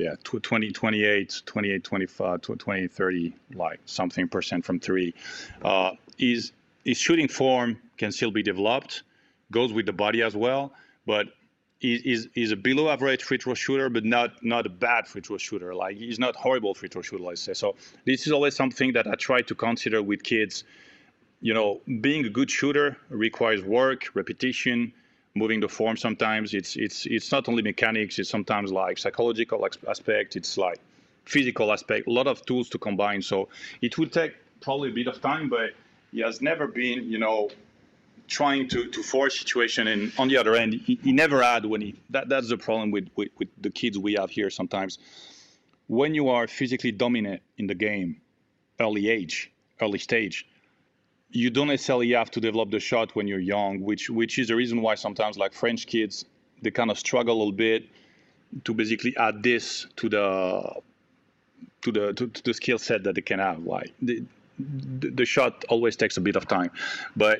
28, 25, 20, 30, like something percent from three. His shooting form can still be developed, goes with the body as well, but he's a below average free throw shooter, but not a bad free throw shooter. Like, he's not horrible free throw shooter, let's say. So this is always something that I try to consider with kids. You know, being a good shooter requires work, repetition, moving the form. Sometimes it's not only mechanics, it's sometimes like psychological aspect, it's like physical aspect, a lot of tools to combine. So it will take probably a bit of time, but he has never been, trying to force situation. And on the other end, he never had that's the problem with the kids we have here sometimes. When you are physically dominant in the game, early stage, you don't necessarily have to develop the shot when you're young, which is the reason why sometimes like French kids, they kind of struggle a little bit to basically add this to the skill set that they can have. Like the shot always takes a bit of time, but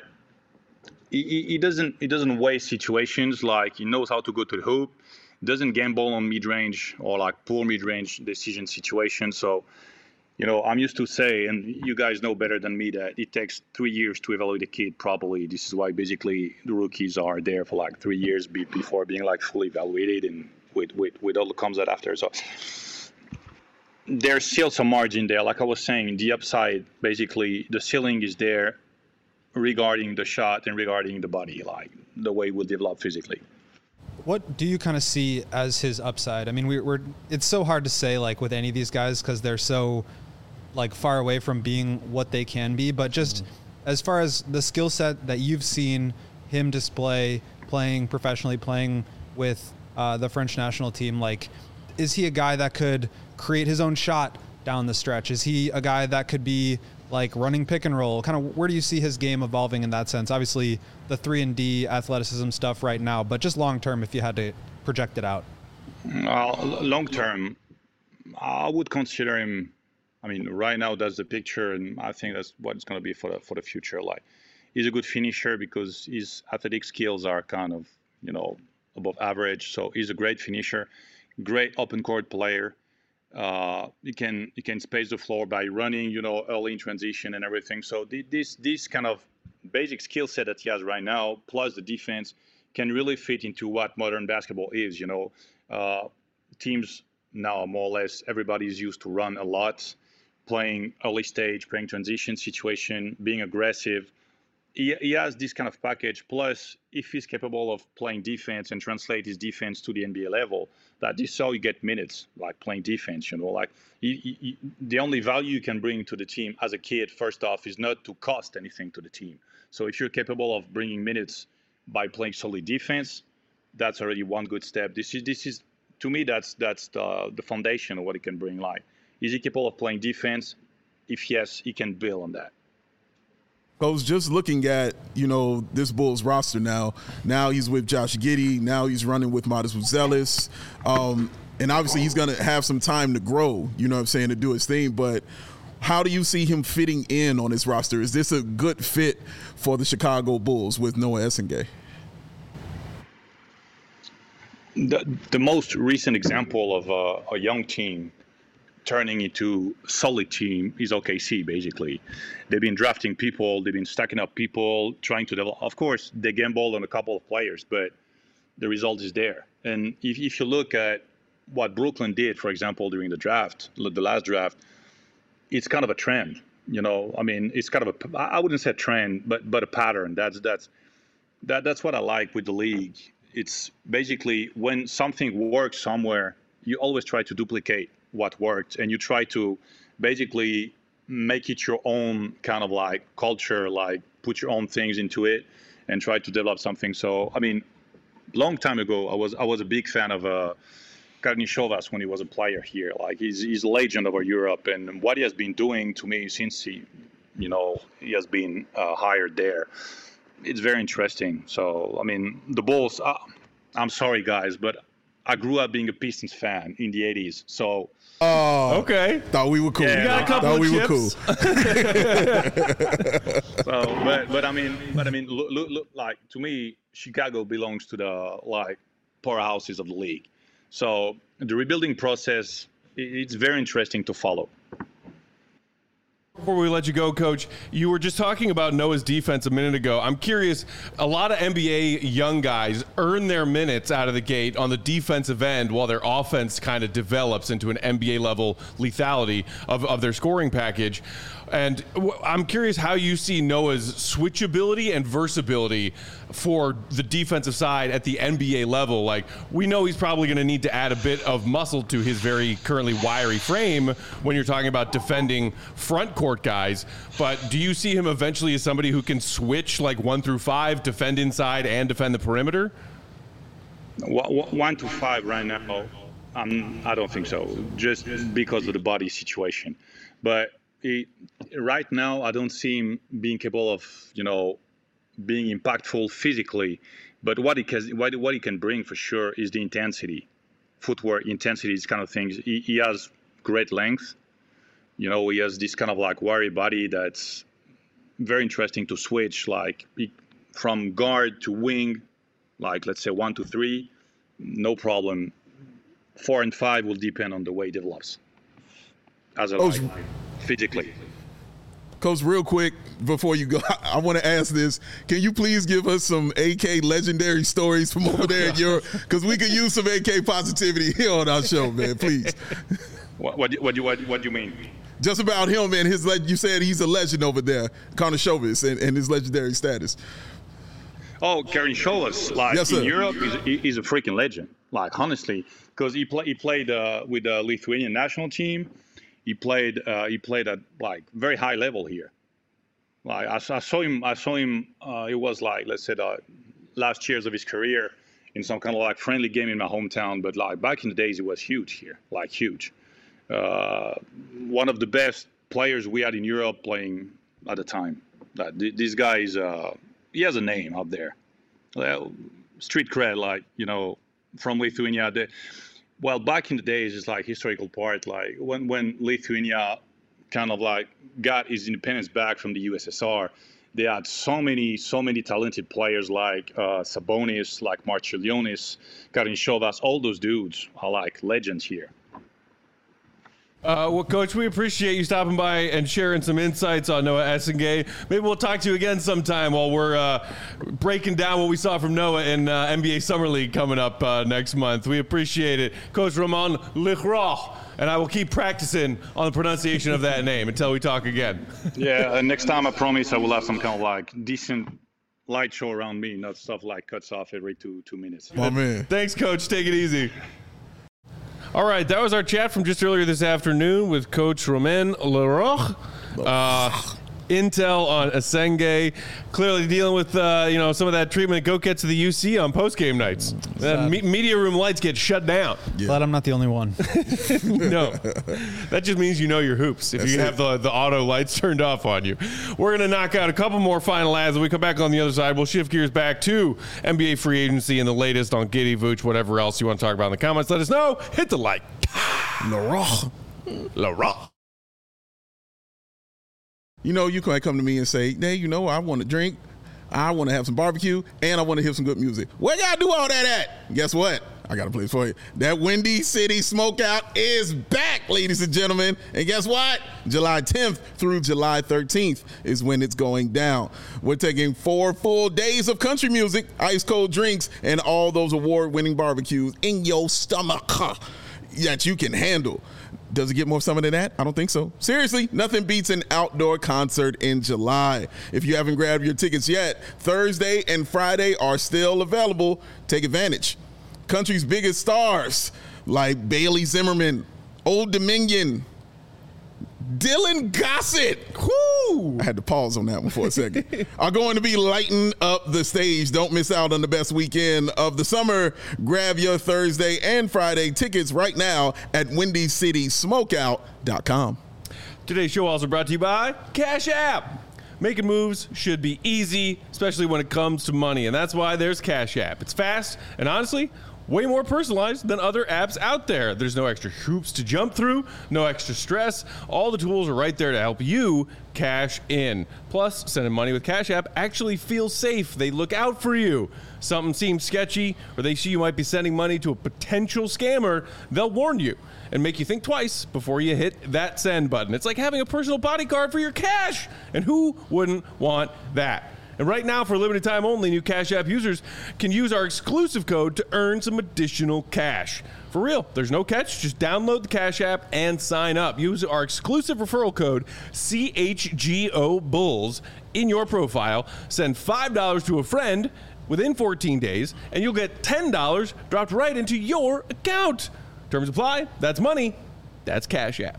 he doesn't waste situations. Like, he knows how to go to the hoop, doesn't gamble on mid-range or like poor mid-range decision situations. So, I'm used to say, and you guys know better than me, that it takes 3 years to evaluate a kid properly. This is why basically the rookies are there for like 3 years before being like fully evaluated, and with all the comes that after. So there's still some margin there. Like I was saying, the upside, basically the ceiling is there regarding the shot and regarding the body, like the way we'll develop physically. What do you kind of see as his upside? I mean, it's so hard to say like with any of these guys because they're so like far away from being what they can be, but just as far as the skill set that you've seen him display playing professionally, playing with the French national team, like, is he a guy that could create his own shot down the stretch? Is he a guy that could be like running pick and roll? Kind of where do you see his game evolving in that sense? Obviously the 3-and-D athleticism stuff right now, but just long term, if you had to project it out. Long term, I would consider him. I mean, right now that's the picture, and I think that's what it's going to be for the future. Like, he's a good finisher because his athletic skills are kind of above average. So he's a great finisher, great open court player. You can space the floor by running, early in transition and everything. So this kind of basic skill set that he has right now, plus the defense, can really fit into what modern basketball is. Teams now, more or less, everybody's used to run a lot, playing early stage, playing transition situation, being aggressive. He has this kind of package. Plus, if he's capable of playing defense and translate his defense to the NBA level, that is how you get minutes, like playing defense. Like the only value you can bring to the team as a kid, first off, is not to cost anything to the team. So if you're capable of bringing minutes by playing solid defense, that's already one good step. This is to me, that's the foundation of what he can bring. Like, is he capable of playing defense? If yes, he can build on that. I was just looking at, this Bulls roster now. Now he's with Josh Giddey. Now he's running with Modest Buzelis. And obviously he's going to have some time to grow, to do his thing. But how do you see him fitting in on this roster? Is this a good fit for the Chicago Bulls with Noah Essengay? The most recent example of a young team turning into a solid team is OKC, basically. They've been drafting people, they've been stacking up people, trying to develop. Of course, they gambled on a couple of players, but the result is there. And if you look at what Brooklyn did, for example, during the last draft, it's kind of a trend. I mean, it's kind of I wouldn't say a trend, but a pattern. That's what I like with the league. It's basically when something works somewhere, you always try to duplicate what worked, and you try to basically make it your own kind of like culture, like put your own things into it and try to develop something. So, I mean, long time ago, I was a big fan of Karnišovas when he was a player here. Like, he's a legend over Europe, and what he has been doing to me since he has been hired there, it's very interesting. So, I mean, the Bulls, I'm sorry guys, but I grew up being a Pistons fan in the 80s. So Okay. Thought we were cool. Yeah, You got a couple Thought of we were chips. cool. so, but I mean, look, like to me, Chicago belongs to the like powerhouses of the league. So the rebuilding process, it's very interesting to follow. Before we let you go, Coach, you were just talking about Noah's defense a minute ago. I'm curious, a lot of NBA young guys earn their minutes out of the gate on the defensive end while their offense kind of develops into an NBA-level lethality of their scoring package. And I'm curious how you see Noah's switchability and versatility for the defensive side at the NBA level. Like, we know he's probably going to need to add a bit of muscle to his very currently wiry frame when you're talking about defending front court guys. But do you see him eventually as somebody who can switch like 1 through 5, defend inside and defend the perimeter? 1 to 5 right now, I don't think so, just because of the body situation. But right now, I don't see him being capable of, being impactful physically. But what he can bring for sure is the intensity, footwork, intensity, these kind of things. He has great length. He has this kind of like wiry body that's very interesting to switch, like from guard to wing, like let's say 1 to 3, no problem. 4 and 5 will depend on the way he develops as a physically. Coach, real quick before you go, I want to ask this. Can you please give us some AK legendary stories from over there in Europe? Because we could use some AK positivity here on our show, man. Please. What do you mean? Just about him and his. You said he's a legend over there, Karnisovas, and his legendary status. Oh, Karnisovas, yes, in Europe, he's a freaking legend. Like honestly, because he played with the Lithuanian national team. He played at like very high level here. Like I saw him. It was like, let's say, the last years of his career in some kind of like friendly game in my hometown. But like back in the days, it was huge here, like huge. One of the best players we had in Europe playing at the time. This guy is he has a name out there, street cred, like from Lithuania. Well, back in the days, it's like historical part, like when Lithuania kind of like got his independence back from the USSR, they had so many talented players like Sabonis, like Marčiulionis, Karnisovas, all those dudes are like legends here. Well, Coach, we appreciate you stopping by and sharing some insights on Noah Essengay. Maybe we'll talk to you again sometime while we're breaking down what we saw from Noah in NBA Summer League coming up next month. We appreciate it. Coach Roman Leroux, and I will keep practicing on the pronunciation of that name until we talk again. Yeah, next time I promise I will have some kind of like decent light show around me, not stuff like cuts off every two minutes. My man. Thanks, Coach. Take it easy. All right, that was our chat from just earlier this afternoon with Coach Romain Leroux. Intel on Essengay, clearly dealing with some of that treatment Go gets to the UC on post-game nights. Media room lights get shut down. Yeah. Glad I'm not the only one. No, that just means you know your hoops if you have the auto lights turned off on you. We're going to knock out a couple more final ads. When we come back on the other side, we'll shift gears back to NBA free agency and the latest on Giddey, Vooch, whatever else you want to talk about in the comments. Let us know. Hit the like. Leroux. You can come to me and say, hey, I want to drink, I want to have some barbecue, and I want to hear some good music. Where y'all do all that at? Guess what? I got a place for you. That Windy City Smokeout is back, ladies and gentlemen. And guess what? July 10th through July 13th is when it's going down. We're taking 4 full days of country music, ice cold drinks, and all those award-winning barbecues in your stomach that you can handle. Does it get more summer than that? I don't think so. Seriously, nothing beats an outdoor concert in July. If you haven't grabbed your tickets yet, Thursday and Friday are still available. Take advantage. Country's biggest stars like Bailey Zimmerman, Old Dominion, Dylan Gossett, I had to pause on that one for a second, are going to be lighting up the stage. Don't miss out on the best weekend of the summer. Grab your Thursday and Friday tickets right now at WindyCitySmokeout.com. Today's show also brought to you by Cash App. Making moves should be easy, especially when it comes to money, and that's why there's Cash App. It's fast, and honestly, way more personalized than other apps out there. There's no extra hoops to jump through, no extra stress. All the tools are right there to help you cash in. Plus, sending money with Cash App actually feels safe. They look out for you. Something seems sketchy, or they see you might be sending money to a potential scammer, they'll warn you and make you think twice before you hit that send button. It's like having a personal bodyguard for your cash, and who wouldn't want that? And right now, for limited time only, new Cash App users can use our exclusive code to earn some additional cash. For real, there's no catch. Just download the Cash App and sign up. Use our exclusive referral code, CHGO-BULLS, in your profile. Send $5 to a friend within 14 days, and you'll get $10 dropped right into your account. Terms apply. That's money. That's Cash App.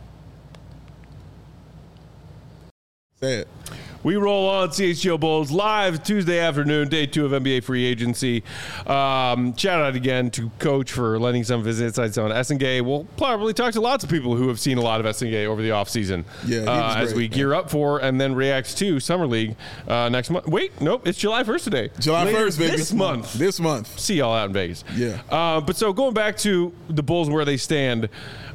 Say it. We roll on CHGO Bulls live Tuesday afternoon, day 2 of NBA free agency. Shout out again to Coach for lending some of his insights on Essengay. We'll probably talk to lots of people who have seen a lot of Essengay over the offseason as we gear up for and then react to Summer League next month. Wait, nope, it's July 1st today. July Later 1st, baby. This month. See y'all out in Vegas. Yeah. But so going back to the Bulls and where they stand,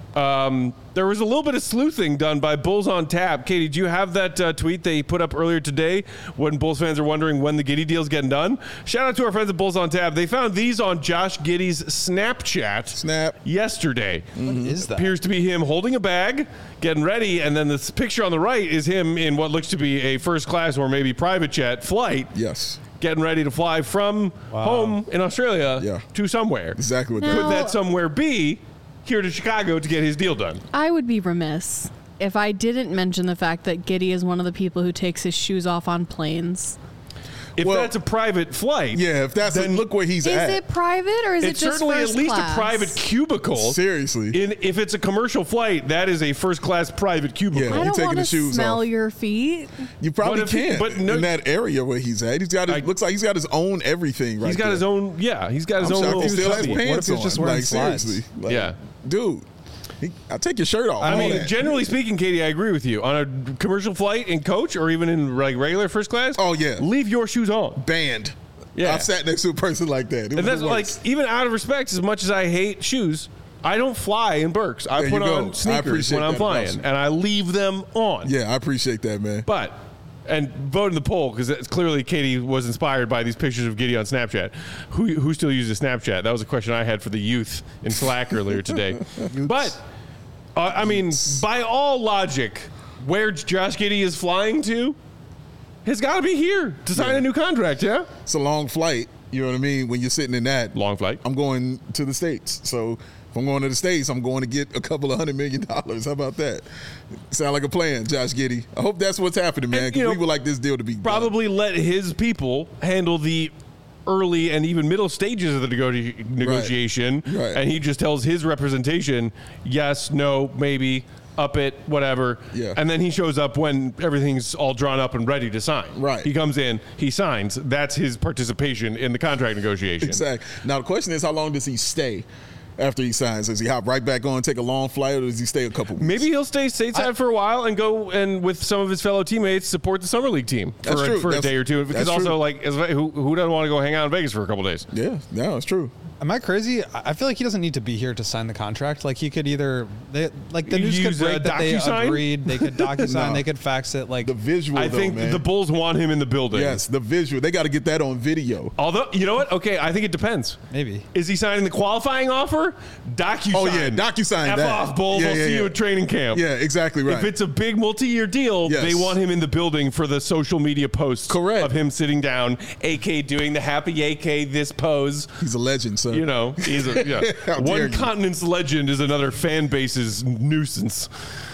there was a little bit of sleuthing done by Bulls on Tap. Katie, do you have that tweet they put up earlier today when Bulls fans are wondering when the Giddey deal's getting done? Shout out to our friends at Bulls on Tap. They found these on Josh Giddey's Snapchat yesterday. What is that? Appears to be him holding a bag, getting ready, and then this picture on the right is him in what looks to be a first class or maybe private jet flight. Yes. Getting ready to fly from home in Australia to somewhere. Exactly what Could that somewhere be here to Chicago to get his deal done? I would be remiss if I didn't mention the fact that Giddey is one of the people who takes his shoes off on planes. If that's a private flight. Yeah, if that's then look where he's at. Is it private or is it it's just certainly first at least class? a private cubicle. Seriously. If it's a commercial flight, that is a first class private cubicle. Yeah. I You don't taking want the to shoes smell off. your feet. You probably What if he- can't but no- in that area where he's at. He's got his, looks like he's got his own everything right He's got there. his own, he's got his I'm own shocked little he still has cubby. pants What if he's on. just wearing like, slides? seriously. Like, Yeah. Dude, I'll take your shirt off. I all mean, that. generally speaking, Katie, I agree with you. On a commercial flight in coach or even in like regular first class, Oh, yeah. leave your shoes on. Banned. Yeah. I've sat next to a person like that. It And was that's the like, worst. even out of respect, as much as I hate shoes, I don't fly in Birks. I There put you go. I on sneakers appreciate when I'm that flying, about you. and I leave them on. Yeah, I appreciate that, man. But, and vote in the poll, because clearly Katie was inspired by these pictures of Giddey on Snapchat. Who still uses Snapchat? That was a question I had for the youth in Slack earlier today. But, I mean, by all logic, where Josh Giddey is flying to has got to be here to sign a new contract, yeah? It's a long flight. You know what I mean? When you're sitting in that. Long flight. I'm going to the States. So if I'm going to the States, I'm going to get a couple of $100 million. How about that? Sound like a plan, Josh Giddey. I hope that's what's happening, man, And, you because know, we would like this deal to be Probably let his people handle the early and even middle stages of the negotiation. Right. And he just tells his representation, yes, no, maybe, up it, whatever. Yeah. And then he shows up when everything's all drawn up and ready to sign. Right. He comes in, he signs. That's his participation in the contract negotiation. Exactly. Now, the question is, how long does he stay after he signs? Does he hop right back on, take a long flight, or does he stay a couple weeks? Maybe he'll stay stateside for a while and go and with some of his fellow teammates support the summer league team That's true. for a That's- day or two. Because that's also, true. like, who doesn't want to go hang out in Vegas for a couple days? Yeah, no, it's true. Am I crazy? I feel like he doesn't need to be here to sign the contract. Like he could either, the You news could use, break that they DocuSign? agreed. They could DocuSign. No. They could fax it. Like The visual, I though, think man. the Bulls want him in the building. Yes, the visual. They got to get that on video. Although, you know what? Okay, I think it depends. maybe. Is he signing the qualifying offer? DocuSign. Oh, yeah, DocuSign F that. off, Bulls. Yeah, I'll yeah, see yeah. you at training camp. Yeah, exactly right. If it's a big multi-year deal, Yes. they want him in the building for the social media posts. Correct. Of him sitting down, AK doing the happy AK this pose. He's a legend, sir. You know, he's a How dare one you. continent's legend is another fan base's nuisance.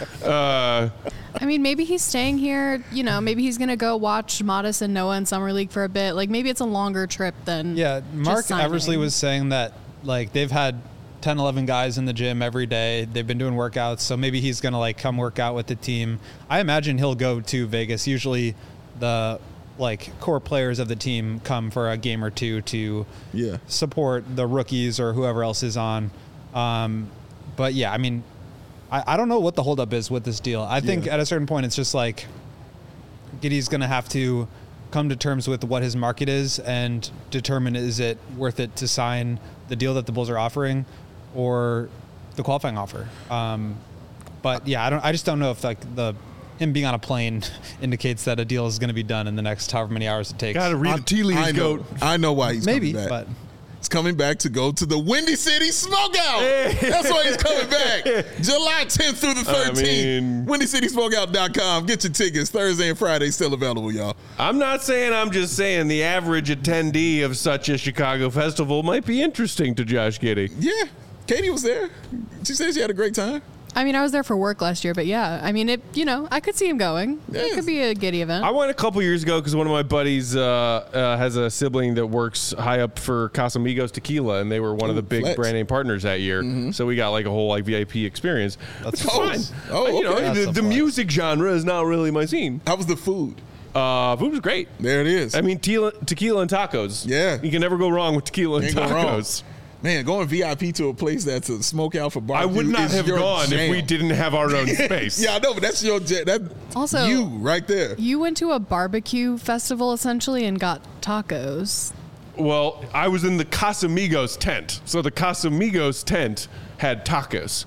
I mean, maybe he's staying here. You know, maybe he's going to go watch Modest and Noah in Summer League for a bit. Like, maybe it's a longer trip than Yeah, Mark just signing. Eversley was saying that like they've had 10, 11 guys in the gym every day. They've been doing workouts, so maybe he's gonna like come work out with the team. I imagine he'll go to Vegas. Usually, the like core players of the team come for a game or two to Yeah. support the rookies or whoever else is on. But yeah, I mean, I don't know what the holdup is with this deal. I think Yeah. at a certain point, it's just like Giddey's gonna have to come to terms with what his market is and determine, is it worth it to sign the deal that the Bulls are offering or the qualifying offer. But yeah, I just don't know if like him being on a plane indicates that a deal is going to be done in the next however many hours it takes. Got to read the tea leaves, goat. I know why he's Maybe, coming back. but He's coming back to go to the Windy City Smokeout. That's why he's coming back. July 10th through the 13th. WindyCitySmokeout.com. Get your tickets. Thursday and Friday still available, y'all. I'm not saying, I'm just saying the average attendee of such a Chicago festival might be interesting to Josh Giddey. Yeah. Katie was there. She said she had a great time. I mean, I was there for work last year, but yeah, I mean, I could see him going. Yes. It could be a Giddey event. I went a couple years ago because one of my buddies has a sibling that works high up for Casamigos Tequila, and they were one of the big flex. brand name partners that year. So we got like a whole like VIP experience. That's fine. Oh, okay. You know, That's the music genre is not really my scene. How was the food? Food was great. There it is. I mean, tequila and tacos. Yeah. You can never go wrong with tequila and Ain't go wrong. tacos. Man, going VIP to a place that's a smokeout for I barbecue. would not is have your gone jam. if we didn't have our own space. Yeah, I know, but that's your that. Also, you right there. You went to a barbecue festival essentially and got tacos. Well, I was in the Casamigos tent. So the Casamigos tent had tacos.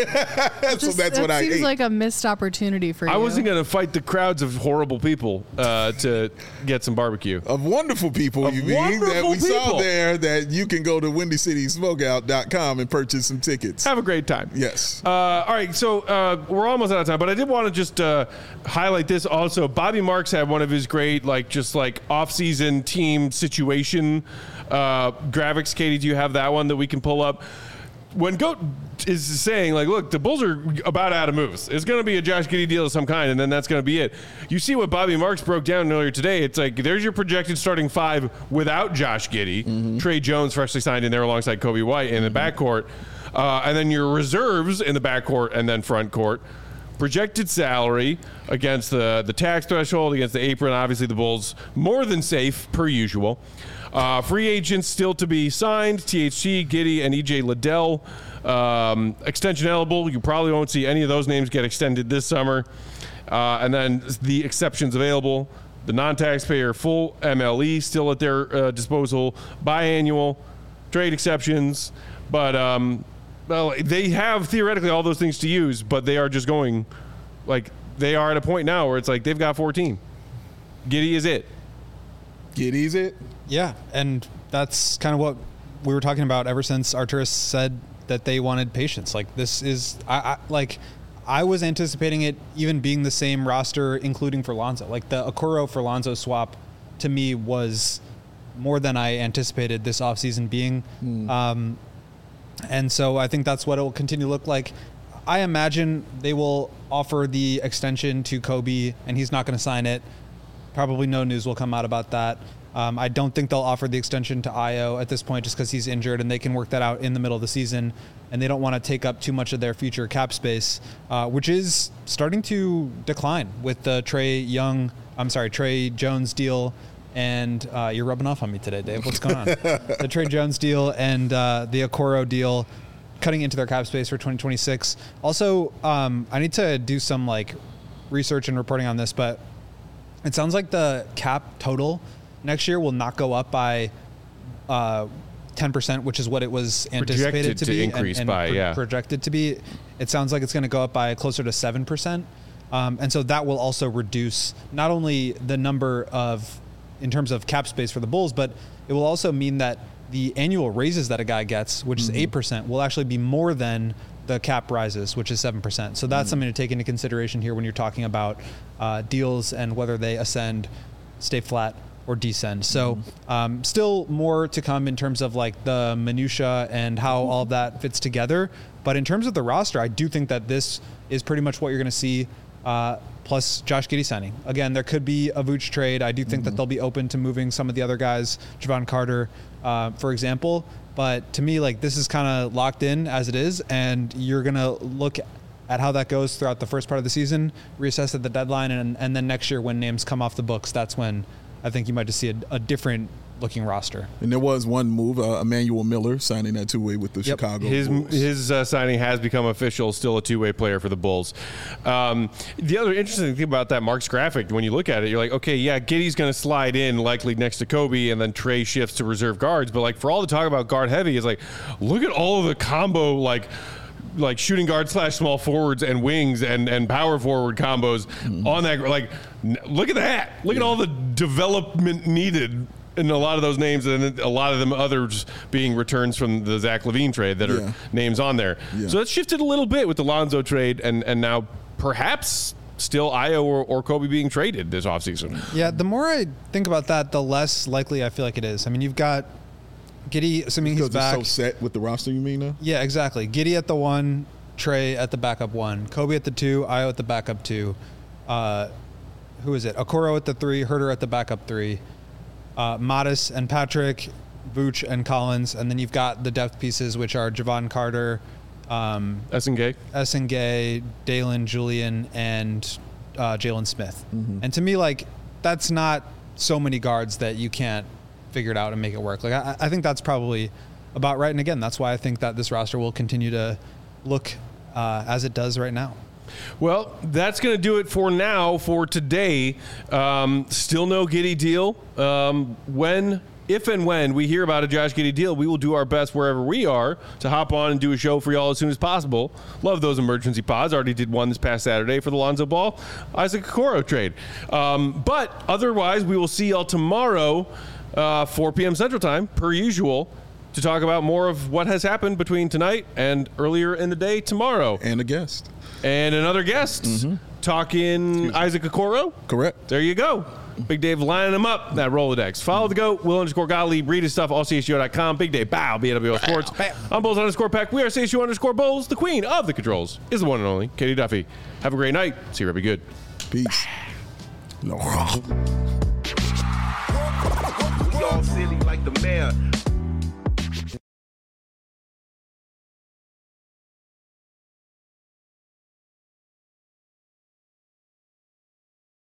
So that's what I seems ate. like a missed opportunity for you. I wasn't going to fight the crowds of horrible people to get some barbecue. Of wonderful people, Of you mean, that wonderful we saw people. there that you can go to WindyCitySmokeout.com and purchase some tickets. Have a great time. Yes. All right, so we're almost out of time, but I did want to just highlight this also. Bobby Marks had one of his great, off-season team situation graphics. Katie, do you have that one that we can pull up? When Goat is saying, look, the Bulls are about out of moves. It's going to be a Josh Giddey deal of some kind, and then that's going to be it. You see what Bobby Marks broke down earlier today. It's like there's your projected starting five without Josh Giddey. Mm-hmm. Trey Jones freshly signed in there alongside Kobe White in the backcourt. And then your reserves in the backcourt and then front court. Projected salary against the tax threshold, against the apron. Obviously, the Bulls more than safe, per usual. Free agents still to be signed, THT, Giddey, and EJ Liddell. Extension eligible. You probably won't see any of those names get extended this summer. And then the exceptions available. The non-taxpayer full MLE still at their disposal. Biannual, trade exceptions. But, they have theoretically all those things to use, but they are just going, they are at a point now where it's like they've got 14. Giddey is it. Giddey's it. yeah, and that's kind of what we were talking about ever since Arturas said that they wanted patience. This is, I was anticipating it even being the same roster, including for Lonzo. The Okoro for Lonzo swap to me was more than I anticipated this offseason being. And so I think that's what it will continue to look like. I imagine they will offer the extension to Kobe, and he's not going to sign it. Probably no news will come out about that. I don't think they'll offer the extension to Io at this point just because he's injured, and they can work that out in the middle of the season, and they don't want to take up too much of their future cap space, which is starting to decline with the Trey Jones deal. And you're rubbing off on me today, Dave. What's going on? The Trey Jones deal and the Okoro deal cutting into their cap space for 2026. Also, I need to do some research and reporting on this, but it sounds like the cap total next year will not go up by 10%, which is what it was anticipated to be increase and by, projected to be. It sounds like it's going to go up by closer to 7%. And so that will also reduce not only the number in terms of cap space for the Bulls, but it will also mean that the annual raises that a guy gets, which is 8%, will actually be more than the cap rises, which is 7%. So that's something to take into consideration here when you're talking about deals and whether they ascend, stay flat, or descend. So still more to come in terms of the minutia and how all of that fits together. But in terms of the roster, I do think that this is pretty much what you're going to see. Plus Josh Giddey signing. Again, there could be a Vooch trade. I do think that they'll be open to moving some of the other guys, Javon Carter, for example. But to me, this is kind of locked in as it is, and you're going to look at how that goes throughout the first part of the season, reassess at the deadline, and then next year when names come off the books, that's when I think you might just see a different looking roster. And there was one move, Emmanuel Miller signing that two-way with the Chicago Bulls. His signing has become official, still a two-way player for the Bulls. The other interesting thing about that Mark's graphic, when you look at it, you're like, okay, yeah, Giddey's going to slide in likely next to Kobe, and then Trey shifts to reserve guards. But like for all the talk about guard heavy, is like, look at all of the combo like shooting guard / small forwards and wings and power forward combos on that. Like, look at that. Look at all the development needed in a lot of those names, and a lot of them others being returns from the Zach LaVine trade that are names on there. Yeah. So that's shifted a little bit with the Lonzo trade, and now perhaps still Ayo or Kobe being traded this offseason. Yeah, the more I think about that, the less likely I feel like it is. I mean, you've got Giddey, assuming he's back. Because so set with the roster, you mean now? Yeah, exactly. Giddey at the 1, Trey at the backup 1, Kobe at the 2, Ayo at the backup 2. Who is it? Okoro at the 3, Huerter at the backup 3. Modis and Patrick, Vooch and Collins, and then you've got the depth pieces, which are Javon Carter, Essengay, Dalen Julian, and Jalen Smith. And to me, like, that's not so many guards that you can't figure it out and make it work. Like, I think that's probably about right. And again, that's why I think that this roster will continue to look as it does right now. Well, that's going to do it for now, for today. Still no Giddey deal. If and when we hear about a Josh Giddey deal, we will do our best wherever we are to hop on and do a show for y'all as soon as possible. Love those emergency pods. Already did one this past Saturday for the Lonzo Ball, Isaac Okoro trade. But otherwise, we will see y'all tomorrow, 4 p.m. Central Time, per usual, to talk about more of what has happened between tonight and earlier in the day tomorrow. And a guest. And another guest, talking Isaac Okoro. Correct. There you go. Big Dave lining them up, that Rolodex. Follow the GOAT, Will_Gottlieb, read his stuff, allcsgo.com. Big Dave, bow, BWL Sports. I'm Bulls_Peck. We are CSU_Bulls. The queen of the controls is the one and only Katie Duffy. Have a great night. See you, be good. Peace. We all silly like the mayor.